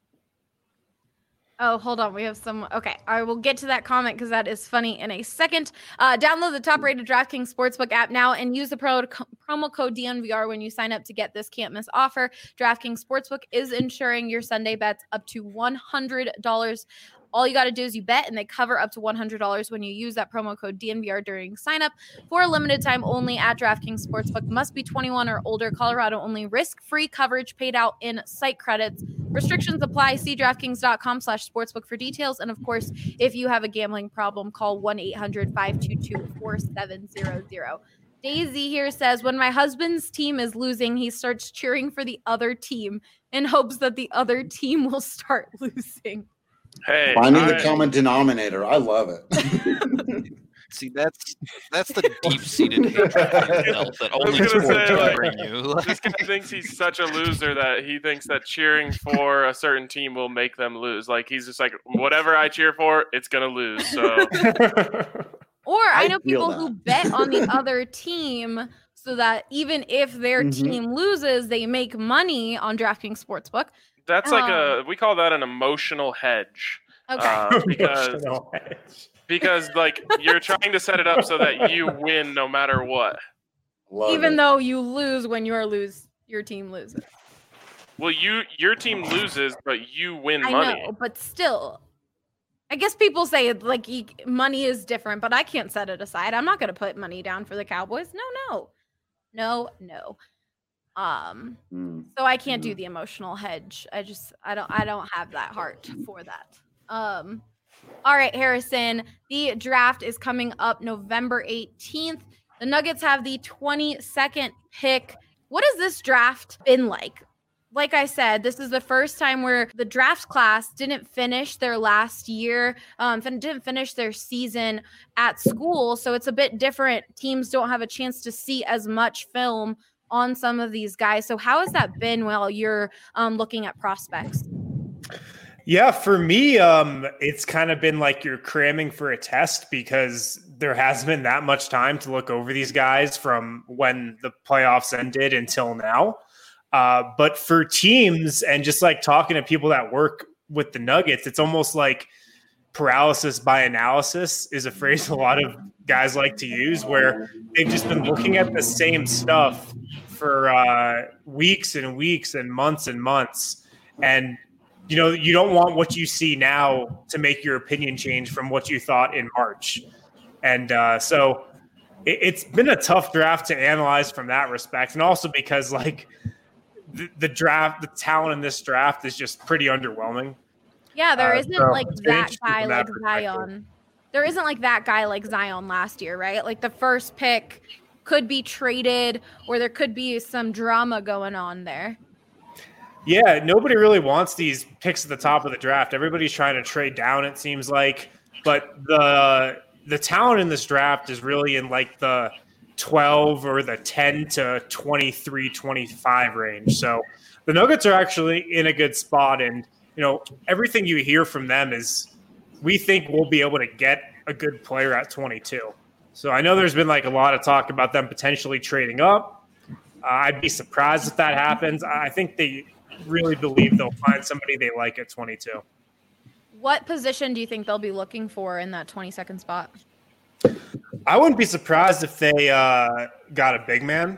Oh, hold on. We have some. Okay. I will get to that comment because that is funny in a second. Uh, download the top rated DraftKings Sportsbook app now and use the pro, co- promo code D N V R when you sign up to get this can't miss offer. DraftKings Sportsbook is insuring your Sunday bets up to one hundred dollars. All you got to do is you bet, and they cover up to one hundred dollars when you use that promo code D N V R during signup. For a limited time only at DraftKings Sportsbook. Must be twenty-one or older. Colorado only. Risk-free coverage paid out in site credits. Restrictions apply. See DraftKings.com slash sportsbook for details. And, of course, if you have a gambling problem, call one eight hundred five two two four seven zero zero. Daisy here says, when my husband's team is losing, he starts cheering for the other team in hopes that the other team will start losing. Hey, Finding I- the common denominator. I love it. See, that's that's the deep-seated hatred for yourself that I was only gonna sports say, can like, bring you. this guy thinks he's such a loser that he thinks that cheering for a certain team will make them lose. Like he's just like, whatever I cheer for, it's gonna lose. So Or I I know feel people that. who bet on the other team so that even if their Mhm. team loses, they make money on DraftKings Sportsbook. that's like Um, a we call that an emotional hedge. Okay. Uh, because because like you're trying to set it up so that you win no matter what. Love even it. though you lose when your lose your team loses. Well, you your team loses, but you win I money. know, but still. I guess people say like e- money is different, but I can't set it aside. I'm not going to put money down for the Cowboys. No, no. No, no. Um Mm. so I can't do Mm. the emotional hedge. I just I don't I don't have that heart for that. Um all right, Harrison, the draft is coming up November eighteenth. The Nuggets have the twenty-second pick. What has this draft been like? Like I said, this is the first time where the draft class didn't finish their last year, um, fin- didn't finish their season at school. So it's a bit different. Teams don't have a chance to see as much film on some of these guys. So how has that been while you're um, looking at prospects? Yeah, for me, um, it's kind of been like you're cramming for a test because there hasn't been that much time to look over these guys from when the playoffs ended until now. Uh, but for teams and just like talking to people that work with the Nuggets, it's almost like paralysis by analysis is a phrase a lot of guys like to use, where they've just been looking at the same stuff for uh, weeks and weeks and months and months. And you know, you don't want what you see now to make your opinion change from what you thought in March. And uh, so it, it's been a tough draft to analyze from that respect. And also because, like, the, the draft, the talent in this draft is just pretty underwhelming. Yeah, there Uh, isn't so like it's been that interesting guy from that like perspective. Zion. There isn't like that guy like Zion last year, right? Like the first pick could be traded or there could be some drama going on there. Yeah, nobody really wants these picks at the top of the draft. Everybody's trying to trade down, it seems like. But the the talent in this draft is really in like the twelve or the ten to twenty-three, twenty-five range. So the Nuggets are actually in a good spot. And, you know, everything you hear from them is we think we'll be able to get a good player at twenty-two. So I know there's been like a lot of talk about them potentially trading up. Uh, I'd be surprised if that happens. I think they really believe they'll find somebody they like at twenty-two. What position do you think they'll be looking for in that twenty-second spot? I wouldn't be surprised if they uh, got a big man,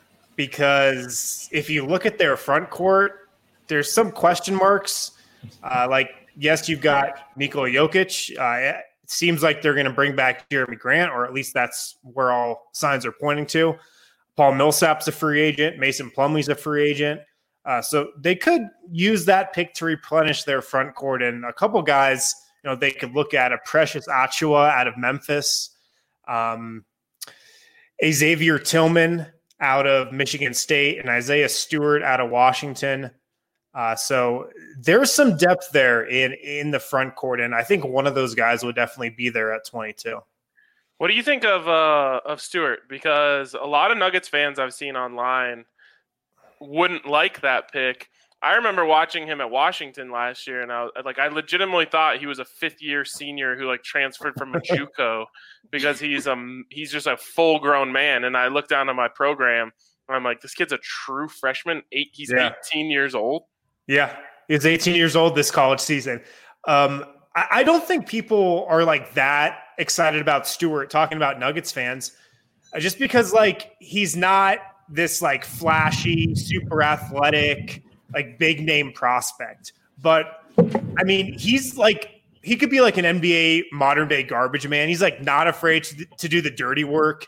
because if you look at their front court, there's some question marks. Uh, like, yes, you've got Nikola Jokic. Uh, it seems like they're going to bring back Jeremy Grant, or at least that's where all signs are pointing to. Paul Millsap's a free agent. Mason Plumlee's a free agent. Uh, so they could use that pick to replenish their front court. And a couple guys, you know, they could look at a Precious Achiuwa out of Memphis, um, a Xavier Tillman out of Michigan State, and Isaiah Stewart out of Washington. Uh, so there's some depth there in, in the front court. And I think one of those guys would definitely be there at twenty-two. What do you think of uh, of Stewart? Because a lot of Nuggets fans I've seen online wouldn't like that pick. I remember watching him at Washington last year, and I was, like, I legitimately thought he was a fifth year senior who like transferred from a JUCO because he's um he's just a full grown man. And I looked down at my program, and I'm like, this kid's a true freshman. Eight, he's Yeah. eighteen years old. Yeah, he's eighteen years old this college season. Um, I, I don't think people are like that excited about Stewart, talking about Nuggets fans, uh, just because like he's not this like flashy, super athletic, like big name prospect. But I mean, he's like, he could be like an N B A modern day garbage man. He's like not afraid to, to do the dirty work.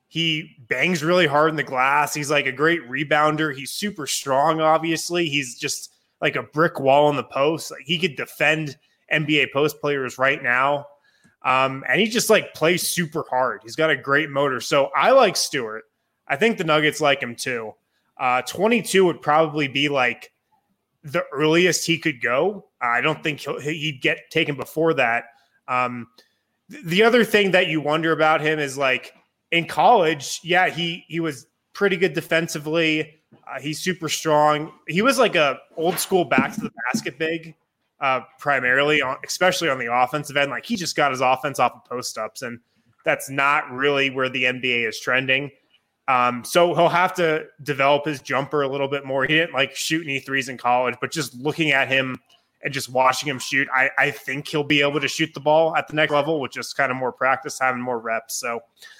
He bangs really hard in the glass. He's like a great rebounder. He's super strong, obviously. He's just like a brick wall in the post. Like he could defend N B A post players right now. Um, and he just like plays super hard. He's got a great motor. So I like Stewart. I think the Nuggets like him too. Uh, twenty-two would probably be like the earliest he could go. I don't think he'll, he'd get taken before that. Um, th- the other thing that you wonder about him is like in college, yeah, he he was pretty good defensively. Uh, he's super strong. He was like a old school back to the basket big, uh, primarily, on, especially on the offensive end. Like he just got his offense off of post ups, and that's not really where the N B A is trending. Um, so he'll have to develop his jumper a little bit more. He didn't like shoot any threes in college, but just looking at him and just watching him shoot, I, I think he'll be able to shoot the ball at the next level with just kind of more practice, having more reps. So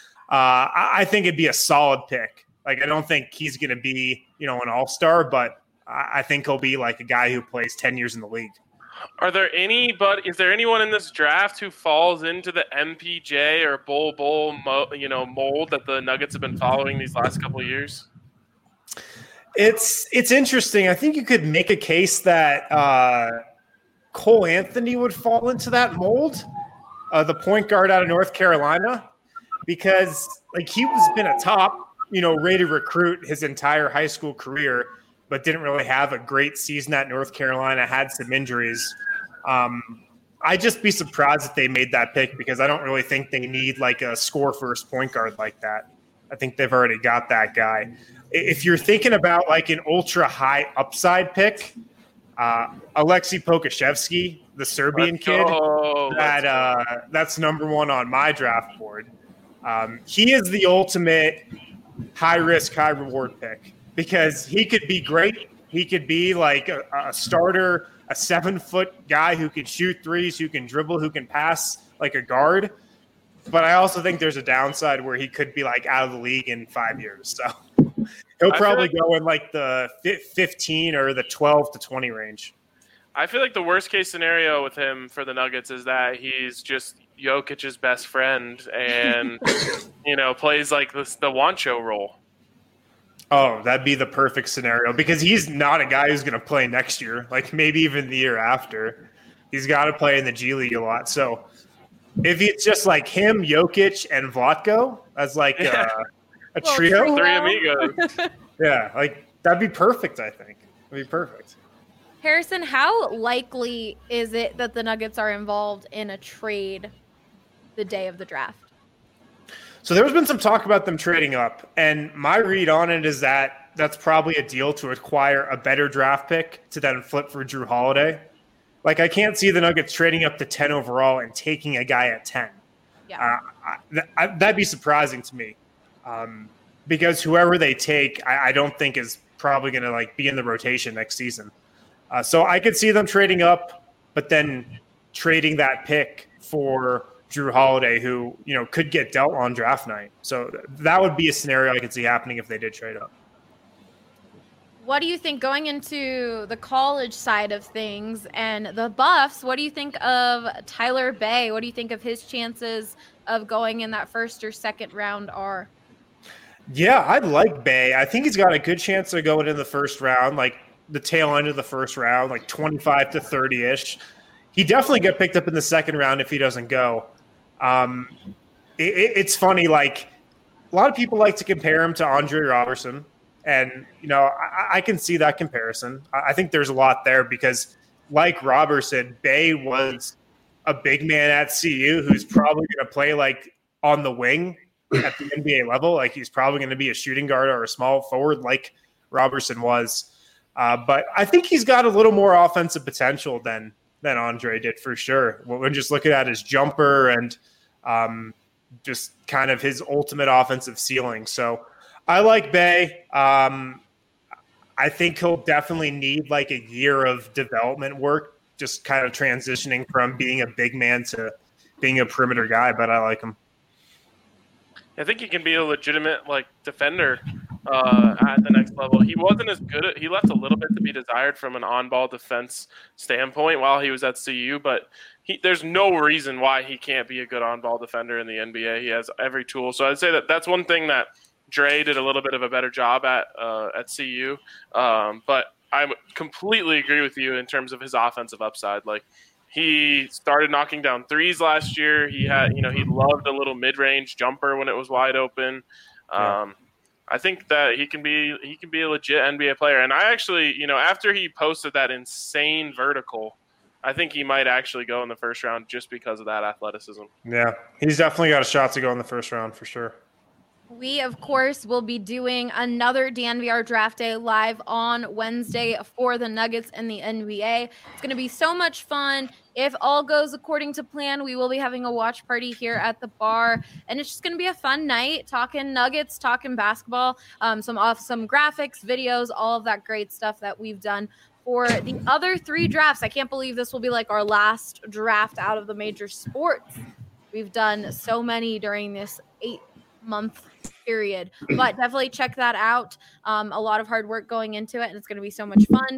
uh, I, I think it'd be a solid pick. Like, I don't think he's going to be, you know, an all-star, but I, I think he'll be like a guy who plays ten years in the league. Are there any, but is there anyone in this draft who falls into the M P J or Bull Bull, mo, you know, mold that the Nuggets have been following these last couple of years? It's it's interesting. I think you could make a case that uh, Cole Anthony would fall into that mold, uh, the point guard out of North Carolina, because like he was been a top, you know, rated recruit his entire high school career, but didn't really have a great season at North Carolina, had some injuries. Um, I'd just be surprised if they made that pick because I don't really think they need like a score first point guard like that. I think they've already got that guy. If you're thinking about like an ultra high upside pick, uh, Alexei Pokashevsky, the Serbian Let's kid, go. that uh, that's number one on my draft board. Um, he is the ultimate high risk, high reward pick. Because he could be great. He could be like a, a starter, a seven-foot guy who can shoot threes, who can dribble, who can pass like a guard. But I also think there's a downside where he could be like out of the league in five years. So he'll probably like- go in like the fifteen or the twelve to twenty range. I feel like the worst case scenario with him for the Nuggets is that he's just Jokic's best friend and, you know, plays like this, the Wancho role. Oh, that'd be the perfect scenario because he's not a guy who's going to play next year, like maybe even the year after. He's got to play in the G League a lot. So if it's just like him, Jokic, and Vlatko as like Yeah. a, a Well, trio, Three amigos. yeah, like that'd be perfect. I think that'd be perfect. Harrison, how likely is it that the Nuggets are involved in a trade the day of the draft? So there's been some talk about them trading up, and my read on it is that that's probably a deal to acquire a better draft pick to then flip for Drew Holiday. Like I can't see the Nuggets trading up to ten overall and taking a guy at ten. Yeah. Uh, I, th- I, that'd be surprising to me, um, because whoever they take, I, I don't think is probably going to like be in the rotation next season. Uh, so I could see them trading up, but then trading that pick for Drew Holiday, who, you know, could get dealt on draft night. So th- that would be a scenario I could see happening if they did trade up. What do you think going into the college side of things and the Buffs? What do you think of Tyler Bay? What do you think of his chances of going in that first or second round are? Yeah, I'd like Bay. I think he's got a good chance of going in the first round, like the tail end of the first round, like twenty-five to thirty-ish. He definitely get picked up in the second round if he doesn't go. Um, it, it, it's funny, like a lot of people like to compare him to Andre Robertson. And, you know, I, I can see that comparison. I, I think there's a lot there because, like Robertson, Bay was a big man at C U who's probably going to play like on the wing at the N B A level. Like he's probably going to be a shooting guard or a small forward like Robertson was. Uh, but I think he's got a little more offensive potential than than Andre did for sure. When just looking at his jumper and um, just kind of his ultimate offensive ceiling. So I like Bay. Um, I think he'll definitely need like a year of development work, just kind of transitioning from being a big man to being a perimeter guy, but I like him. I think he can be a legitimate like defender uh, at the next level. He wasn't as good at, he left a little bit to be desired from an on-ball defense standpoint while he was at C U, but he, there's no reason why he can't be a good on-ball defender in the N B A. He has every tool. So I'd say that that's one thing that Dre did a little bit of a better job at uh, at C U, um, but I completely agree with you in terms of his offensive upside. Like he started knocking down threes last year. He had, you know, he loved a little mid-range jumper when it was wide open. Um, yeah. I think that he can be he can be a legit N B A player. And I actually, you know, after he posted that insane vertical, I think he might actually go in the first round just because of that athleticism. Yeah, he's definitely got a shot to go in the first round for sure. We, of course, will be doing another D N V R Draft Day live on Wednesday for the Nuggets and the N B A. It's going to be so much fun. If all goes according to plan, we will be having a watch party here at the bar, and it's just going to be a fun night talking Nuggets, talking basketball, um, some awesome graphics, videos, all of that great stuff that we've done for the other three drafts. I can't believe this will be like our last draft out of the major sports. We've done so many during this eight month period, but definitely check that out. Um, a lot of hard work going into it, and it's going to be so much fun.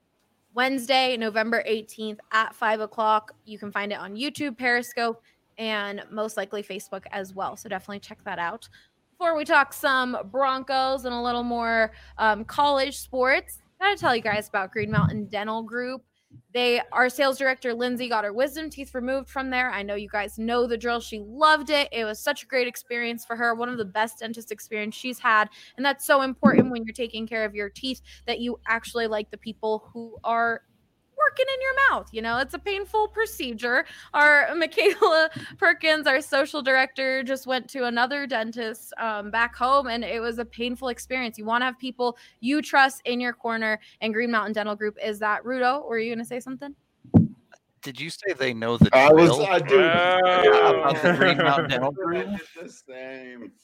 Wednesday, November eighteenth at five o'clock. You can find it on YouTube, Periscope, and most likely Facebook as well. So definitely check that out. Before we talk some Broncos and a little more um, college sports, gotta tell you guys about Green Mountain Dental Group. They, our sales director, Lindsay, got her wisdom teeth removed from there. I know you guys know the drill. She loved it. It was such a great experience for her. One of the best dentist experience she's had. And that's so important when you're taking care of your teeth, that you actually like the people who are working in your mouth. You know, it's a painful procedure. Our Michaela Perkins, our social director, just went to another dentist um, back home, and it was a painful experience. You want to have people you trust in your corner, and Green Mountain Dental Group is that. Rudo, were you going to say something? Did you say they know the I was, drill? I do. Oh. About the Green Mountain Dental Group? I did the same.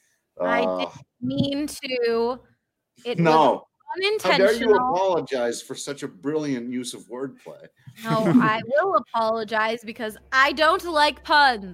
I Uh, didn't mean to. It no. was How dare you unintentional. apologize for such a brilliant use of wordplay? No, I will apologize because I don't like puns.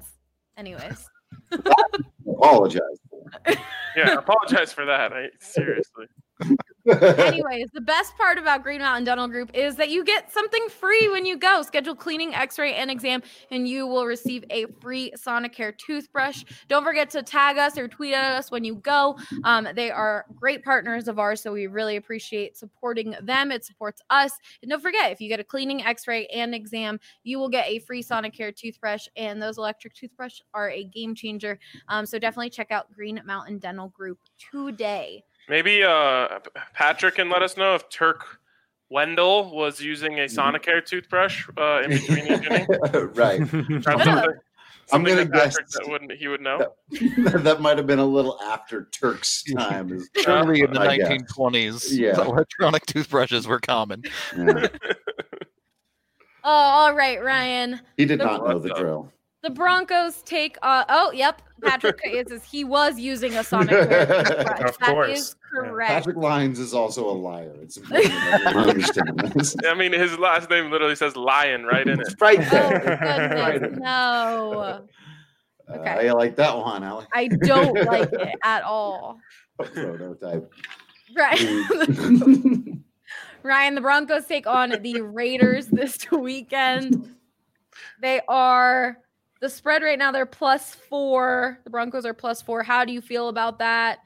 Anyways. Apologize. Yeah, apologize for that. I, seriously. Anyways, the best part about Green Mountain Dental Group is that you get something free when you go. Schedule cleaning, x-ray, and exam, and you will receive a free Sonicare toothbrush. Don't forget to tag us or tweet at us when you go. Um, they are great partners of ours, so we really appreciate supporting them. It supports us. And don't forget, if you get a cleaning, x-ray, and exam, you will get a free Sonicare toothbrush, and those electric toothbrushes are a game changer. Um, so definitely check out Green Mountain Dental Group today. Maybe uh, Patrick can let us know if Turk Wendell was using a Sonicare toothbrush uh, in between each inning. Right. Something, I'm something gonna that guess Patrick that wouldn't, he would know. That, that might have been a little after Turk's time. is- Surely in the I guess. nineteen twenties, Yeah. electronic toothbrushes were common. Yeah. Oh, all right, Ryan. He did The- not know the drill. The Broncos take. Uh, oh, yep. Patrick says he was using a Sonicare toothbrush. Of That course. is correct. Patrick Lyons is also a liar. It's important that everyone understand this. I mean, his last name literally says Lion right in it. It's right Oh, there. Right goodness. in- No. Uh, Okay. I like that one, Allie. I don't like it at all. Prototype. Right. Mm. Ryan, the Broncos take on the Raiders this weekend. They are the spread right now. They're plus four. The Broncos are plus four. How do you feel about that?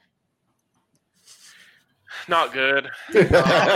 Not good. It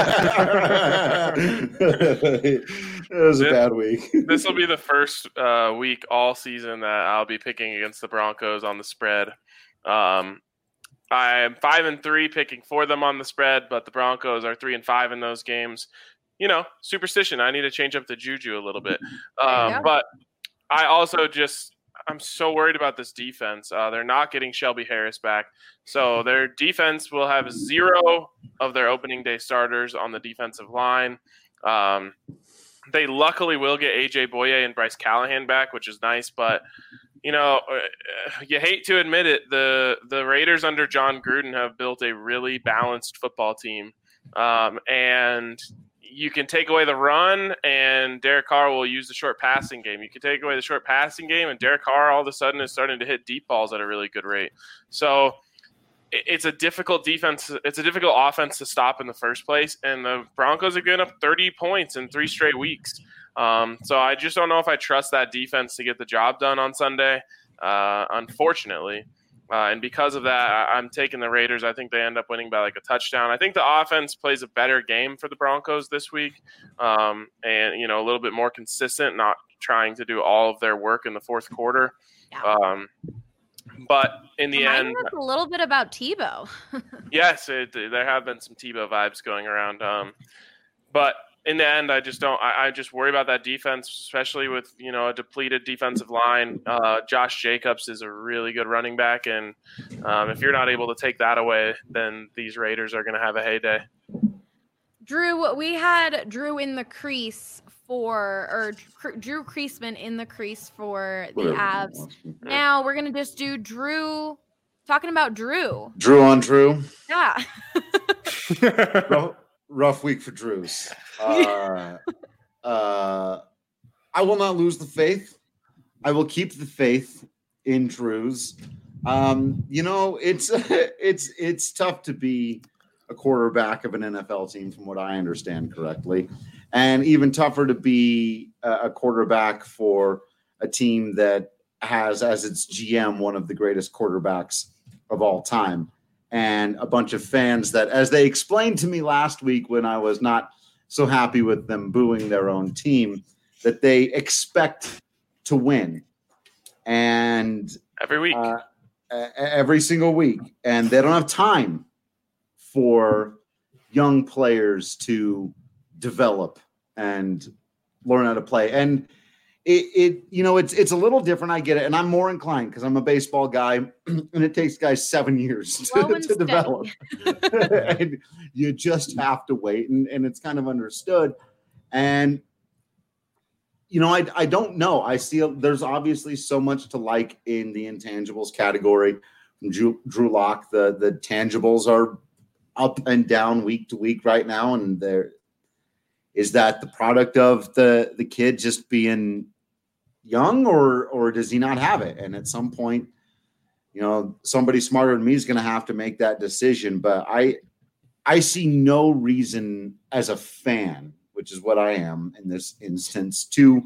was a This- bad week. This will be the first uh, week all season that I'll be picking against the Broncos on the spread. Um, I'm five and three picking for them on the spread, but the Broncos are three and five in those games. You know, superstition. I need to change up the juju a little bit. Um, go. but I also just I'm so worried about this defense. Uh, they're not getting Shelby Harris back, so their defense will have zero of their opening day starters on the defensive line. Um, they luckily will get A J Boye and Bryce Callahan back, which is nice. But you know, uh, you hate to admit it, the the Raiders under John Gruden have built a really balanced football team, um, and you can take away the run, and Derek Carr will use the short passing game. You can take away the short passing game, and Derek Carr all of a sudden is starting to hit deep balls at a really good rate. So it- it's a difficult defense. It's a difficult offense to stop in the first place, and the Broncos have given up thirty points in three straight weeks. Um, so I just don't know if I trust that defense to get the job done on Sunday, uh, unfortunately. Uh, and because of that, I- I'm taking the Raiders. I think they end up winning by like a touchdown. I think the offense plays a better game for the Broncos this week, um, and you know a little bit more consistent, not trying to do all of their work in the fourth quarter. Yeah. Um, but in the Remind end, us a little bit about Tebow. yes, it, there have been some Tebow vibes going around. Um, but in the end, I just don't. I, I just worry about that defense, especially with you know a depleted defensive line. Uh, Josh Jacobs is a really good running back, and um, if you're not able to take that away, then these Raiders are going to have a heyday. Drew, we had Drew in the crease for, or Cr- Drew Creasman in the crease for the Whatever. Avs. Now we're gonna just do Drew, talking about Drew. Drew on Drew. Yeah. rough, rough week for Drews. Uh, uh, I will not lose the faith. I will keep the faith in Drews. Um, you know, it's it's it's tough to be a quarterback of an N F L team, from what I understand correctly, and even tougher to be a, a quarterback for a team that has as its G M one of the greatest quarterbacks of all time, and a bunch of fans that, as they explained to me last week when I was not so happy with them booing their own team, that they expect to win, and Every week. uh, e- every single week, and they don't have time for young players to develop and learn how to play. And it, it you know, it's it's a little different. I get it, and I'm more inclined because I'm a baseball guy, and it takes guys seven years to, Slow and to steady. develop. And you just have to wait, and, and it's kind of understood. And you know, I I don't know. I see there's obviously so much to like in the intangibles category. From Drew, Drew Lock, the the tangibles are up and down week to week right now, and there is that the product of the the kid just being young, or or does he not have it? And at some point, you know, somebody smarter than me is going to have to make that decision. But I I see no reason as a fan, which is what I am in this instance, to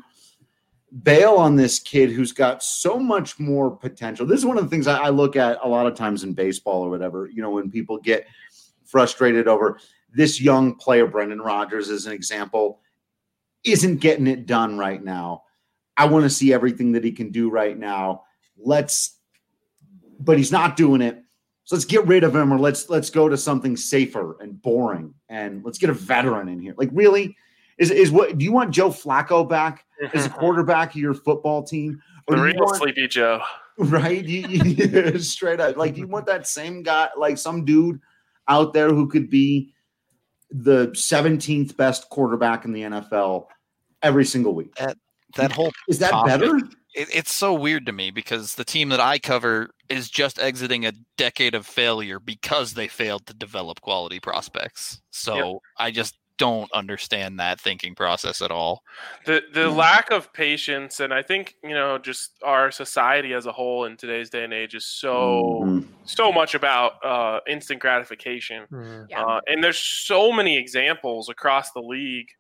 bail on this kid who's got so much more potential. This is one of the things I, I look at a lot of times in baseball or whatever, you know, when people get frustrated over this young player, Brendan Rodgers as an example, isn't getting it done right now. I want to see everything that he can do right now. Let's, but he's not doing it. So let's get rid of him, or let's let's go to something safer and boring, and let's get a veteran in here. Like, really, is is what do you want Joe Flacco back as a quarterback of your football team? Or the real want, Sleepy Joe, right? You, you, straight up, like, do you want that same guy, like some dude out there who could be the seventeenth best quarterback in the N F L every single week? That that whole is that topic, better? It, it's so weird to me because the team that I cover is just exiting a decade of failure because they failed to develop quality prospects. So yep. I just don't understand that thinking process at all. The the yeah. lack of patience, and I think, you know, just our society as a whole in today's day and age is so mm-hmm. so much about uh, instant gratification. Mm-hmm. Yeah. Uh, and there's so many examples across the league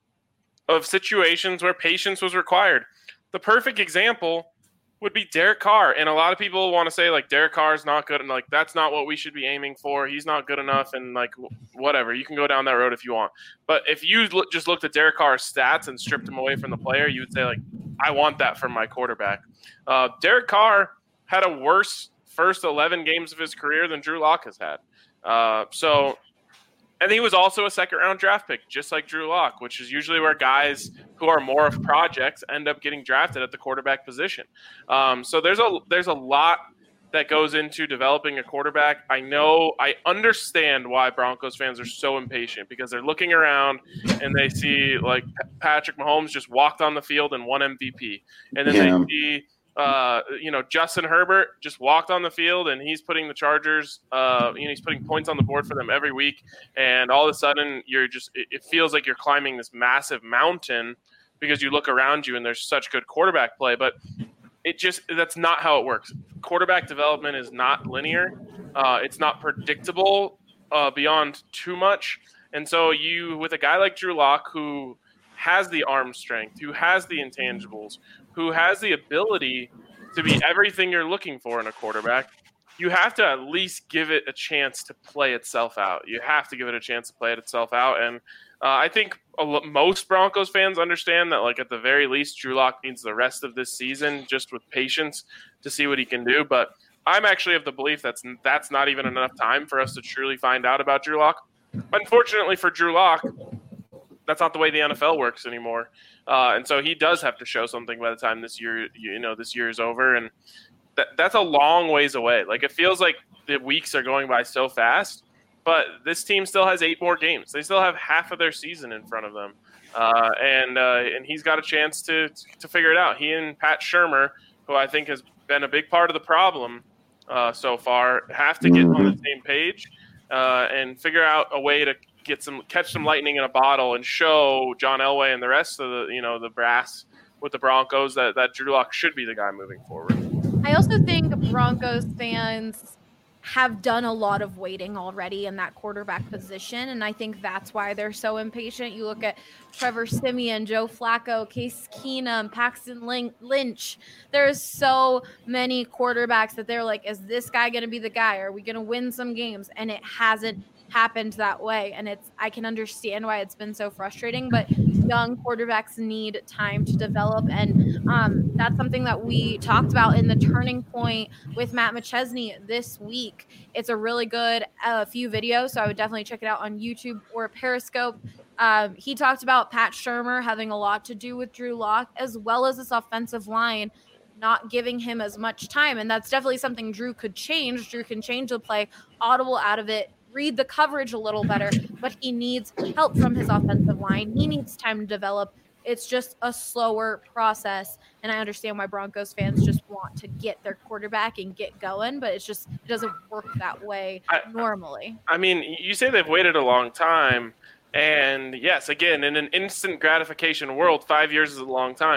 of situations where patience was required. The perfect example would be Derek Carr. And a lot of people want to say, like, Derek Carr is not good. And, like, that's not what we should be aiming for. He's not good enough. And, like, whatever. You can go down that road if you want. But if you look, just looked at Derek Carr's stats and stripped him away from the player, you would say, like, I want that from my quarterback. Uh, Derek Carr had a worse first eleven games of his career than Drew Lock has had. Uh, so – And he was also a second-round draft pick, just like Drew Lock, which is usually where guys who are more of projects end up getting drafted at the quarterback position. Um, so there's a there's a lot that goes into developing a quarterback. I know, I understand why Broncos fans are so impatient, because they're looking around and they see, like, Patrick Mahomes just walked on the field and won M V P. And then yeah. they see – Uh, you know, Justin Herbert just walked on the field and he's putting the Chargers, uh, you know, he's putting points on the board for them every week. And all of a sudden you're just, it, it feels like you're climbing this massive mountain because you look around you and there's such good quarterback play, but it just, that's not how it works. Quarterback development is not linear. Uh, it's not predictable uh, beyond too much. And so you, with a guy like Drew Lock, who has the arm strength, who has the intangibles, who has the ability to be everything you're looking for in a quarterback, you have to at least give it a chance to play itself out. You have to give it a chance to play it itself out. And uh, I think a lo- most Broncos fans understand that, like, at the very least, Drew Lock needs the rest of this season just with patience to see what he can do. But I'm actually of the belief that's, that's not even enough time for us to truly find out about Drew Lock. Unfortunately for Drew Lock, that's not the way the N F L works anymore. Uh, and so he does have to show something by the time this year, you know, this year is over. And that, that's a long ways away. Like, it feels like the weeks are going by so fast, but this team still has eight more games. They still have half of their season in front of them. Uh, and, uh, and he's got a chance to, to figure it out. He and Pat Shurmur, who I think has been a big part of the problem uh, so far, have to get on the same page uh, and figure out a way to get some, catch some lightning in a bottle and show John Elway and the rest of the, you know, the brass with the Broncos that, that Drew Lock should be the guy moving forward. I also think Broncos fans have done a lot of waiting already in that quarterback position, and I think that's why they're so impatient. You look at Trevor Siemian, Joe Flacco, Case Keenum, Paxton Lynch. There's so many quarterbacks that they're like, is this guy going to be the guy? Are we going to win some games? And it hasn't happened that way, and it's I can understand why it's been so frustrating, but young quarterbacks need time to develop, and um, that's something that we talked about in the Turning Point with Matt McChesney this week. It's a really good uh, few videos, so I would definitely check it out on YouTube or Periscope. Um, he talked about Pat Shurmur having a lot to do with Drew Lock, as well as this offensive line not giving him as much time, and that's definitely something Drew could change. Drew can change the play, audible out of it, read the coverage a little better, but he needs help from his offensive line. He needs time to develop. It's just a slower process, and I understand why Broncos fans just want to get their quarterback and get going, but it's just it doesn't work that way I, normally. I mean, you say they've waited a long time, and yes, again, in an instant gratification world, five years is a long time.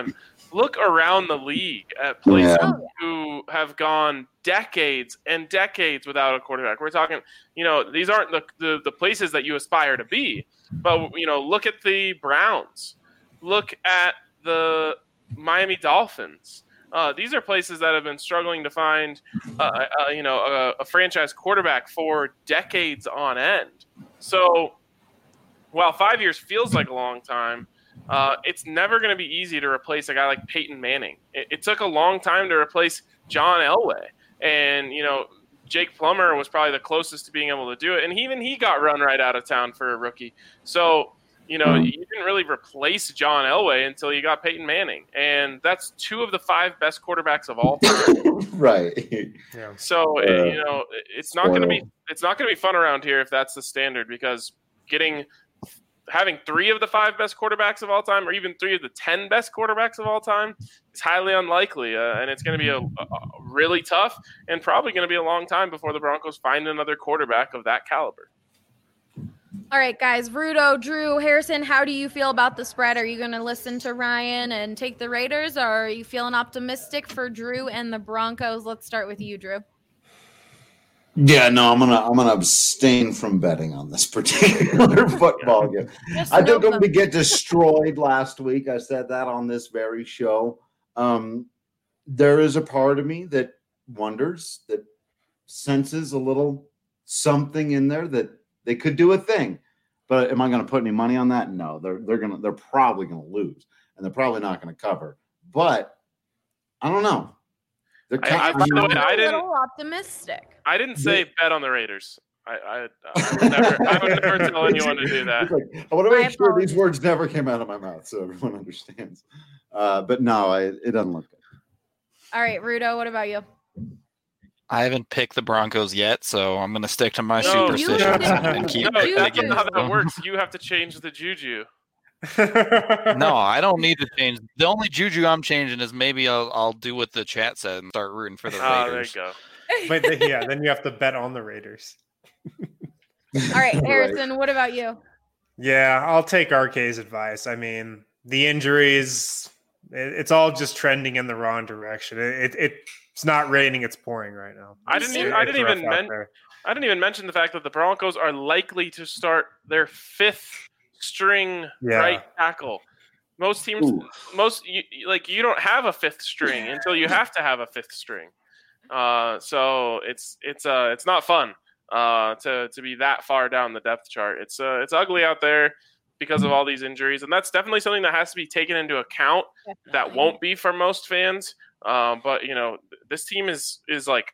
look around the league at places Yeah. who have gone decades and decades without a quarterback. We're talking, you know, these aren't the, the, the places that you aspire to be. But, you know, look at the Browns. Look at the Miami Dolphins. Uh, these are places that have been struggling to find, uh, uh, you know, a, a franchise quarterback for decades on end. So while five years feels like a long time, uh, it's never going to be easy to replace a guy like Peyton Manning. It, it took a long time to replace John Elway. And, you know, Jake Plummer was probably the closest to being able to do it. And even he got run right out of town for a rookie. So, you know, you didn't really replace John Elway until you got Peyton Manning. And that's two of the five best quarterbacks of all time. Right. Yeah. So, Uh, you know, it's not going to be it's not going to be fun around here if that's the standard, because getting having three of the five best quarterbacks of all time, or even three of the ten best quarterbacks of all time, is highly unlikely. Uh, and it's going to be a, a really tough and probably going to be a long time before the Broncos find another quarterback of that caliber. All right, guys. Rudo, Drew, Harrison, how do you feel about the spread? Are you going to listen to Ryan and take the Raiders, or are you feeling optimistic for Drew and the Broncos? Let's start with you, Drew. Yeah, no, I'm gonna I'm gonna abstain from betting on this particular football game. Just I note took them them. to get destroyed last week. I said that on this very show. Um, there is a part of me that wonders, that senses a little something in there that they could do a thing. But am I going to put any money on that? No, they're they're gonna they're probably going to lose, and they're probably not going to cover. But I don't know. They're I- kind I- of- by the way, I'm I a didn't- little optimistic. I didn't say bet on the Raiders. I, I, I, would, never, I would never tell anyone to do that. It's like, I want to My make sure apologies. these words never came out of my mouth so everyone understands. Uh, but no, I, it doesn't look good. All right, Rudo, what about you? I haven't picked the Broncos yet, so I'm going to stick to my No, you superstitions didn't. and keep No, You that's picking not how that them. works. You have to change the juju. No, I don't need to change. The only juju I'm changing is maybe I'll I'll do what the chat said and start rooting for the Ah, there you Raiders. go. But the, yeah, then you have to bet on the Raiders. All right, Harrison, what about you? Yeah, I'll take R K's advice. I mean, the injuries, it, it's all just trending in the wrong direction. It, it it's not raining; it's pouring right now. I didn't It's- even. I It's didn't rough even out men- there. I didn't even mention the fact that the Broncos are likely to start their fifth string Yeah. right tackle. Most teams, Ooh. most you, you- like you don't have a fifth string until you have to have a fifth string. Uh, so it's it's uh it's not fun uh to to be that far down the depth chart. It's uh it's ugly out there because of all these injuries, and that's definitely something that has to be taken into account. That won't be for most fans. Uh, but you know, this team is is like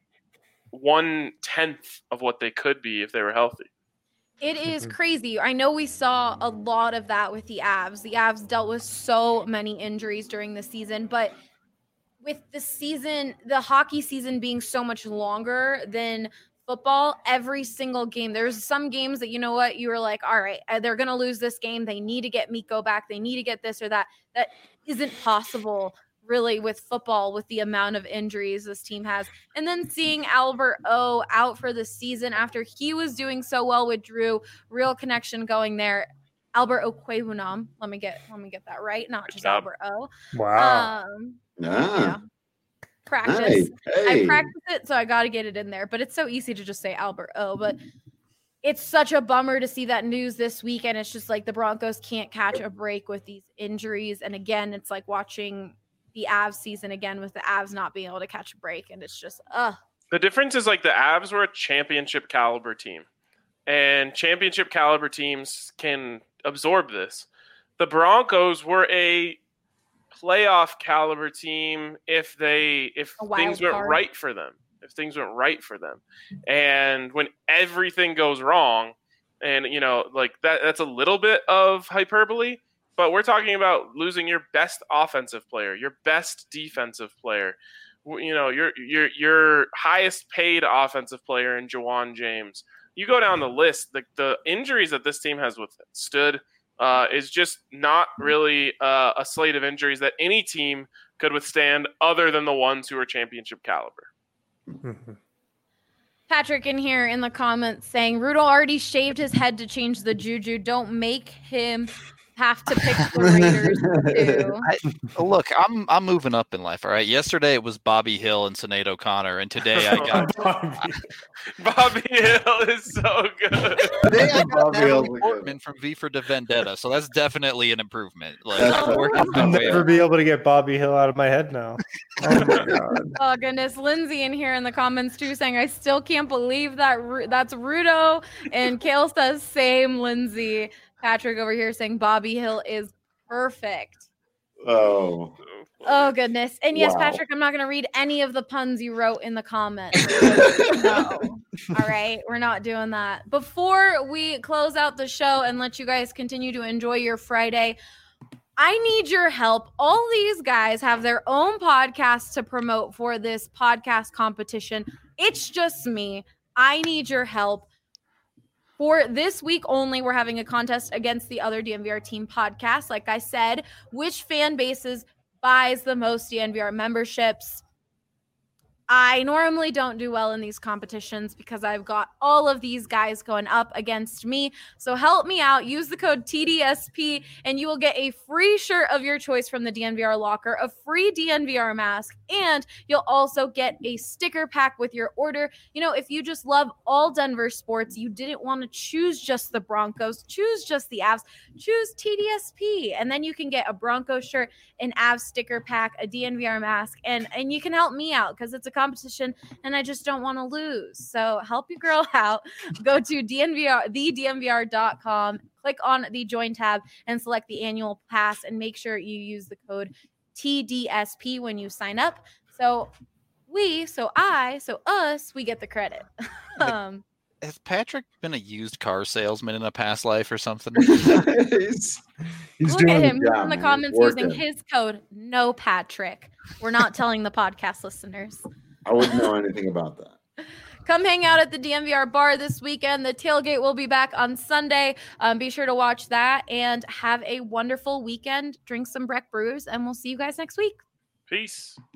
one tenth of what they could be if they were healthy. It is Mhm. crazy. I know we saw a lot of that with the Avs. The Avs dealt with so many injuries during the season, but with the season, the hockey season being so much longer than football, every single game, there's some games that, you know what, you were like, all right, uh, they're going to lose this game. They need to get Mikko back. They need to get this or that. That isn't possible really with football, with the amount of injuries this team has. And then seeing Albert O out for the season after he was doing so well with Drew, real connection going there. Albert Okwebunam, let me get let me get that right, not Good just job. Albert O. Wow. Um, Ah, practice. hey, I hey. practice it, so I got to get it in there. But it's so easy to just say Albert O. But it's such a bummer to see that news this week, and it's just like the Broncos can't catch a break with these injuries. And again, it's like watching the Avs season again with the Avs not being able to catch a break, and it's just ugh. The difference is like the Avs were a championship caliber team, and championship caliber teams can absorb this. The Broncos were a playoff caliber team if they if A wild things went card. right for them. If things went right for them. And when everything goes wrong, and you know, like that that's a little bit of hyperbole, but we're talking about losing your best offensive player, your best defensive player, w- you know, your your your highest paid offensive player in Jawan James. You go down the list, the the injuries that this team has withstood uh, is just not really uh, a slate of injuries that any team could withstand, other than the ones who are championship caliber. Mhm. Patrick in here in the comments saying Rudo already shaved his head to change the juju. Don't make him have to pick the Raiders too. I, look, I'm I'm moving up in life. All right. Yesterday it was Bobby Hill and Sinead O'Connor, and today I got Bobby. Bobby Hill is so good. today I got Bobby Hill's Natalie a good Portman from V for Vendetta. So that's definitely an improvement. Like, That's I'm working my I'll way never up. be able to get Bobby Hill out of my head now. Oh my god. Oh goodness, Lindsay in here in the comments too saying I still can't believe that Ru- that's Rudo, and Kale says same. Lindsay, Patrick over here saying Bobby Hill is perfect. Oh, Oh goodness, and yes, Wow. Patrick, I'm not going to read any of the puns you wrote in the comments. No, all right, we're not doing that. Before we close out the show and let you guys continue to enjoy your Friday, I need your help. All these guys have their own podcasts to promote for this podcast competition. It's just me. I need your help. For this week only, we're having a contest against the other D N V R team podcasts. Like I said, which fan bases buys the most D N V R memberships? I normally don't do well in these competitions because I've got all of these guys going up against me. So help me out. Use the code T D S P and you will get a free shirt of your choice from the D N V R locker, a free D N V R mask, and you'll also get a sticker pack with your order. You know, if you just love all Denver sports, you didn't want to choose just the Broncos, choose just the Avs, choose T D S P, and then you can get a Broncos shirt, an Avs sticker pack, a D N V R mask, and, and you can help me out because it's a competition and I just don't want to lose. So help your girl out. Go to D N V R, the D N V R dot com, click on the join tab and select the annual pass and make sure you use the code T D S P when you sign up. So we, so I, so us, we get the credit. um, Has Patrick been a used car salesman in a past life or something? he's, he's Look doing at the him. He's job, in the man. comments He's using working. his code, no Patrick. We're not telling the podcast listeners. I wouldn't know anything about that. Come hang out at the D N V R bar this weekend. The tailgate will be back on Sunday. Um, be sure to watch that and have a wonderful weekend. Drink some Breck Brews, and we'll see you guys next week. Peace.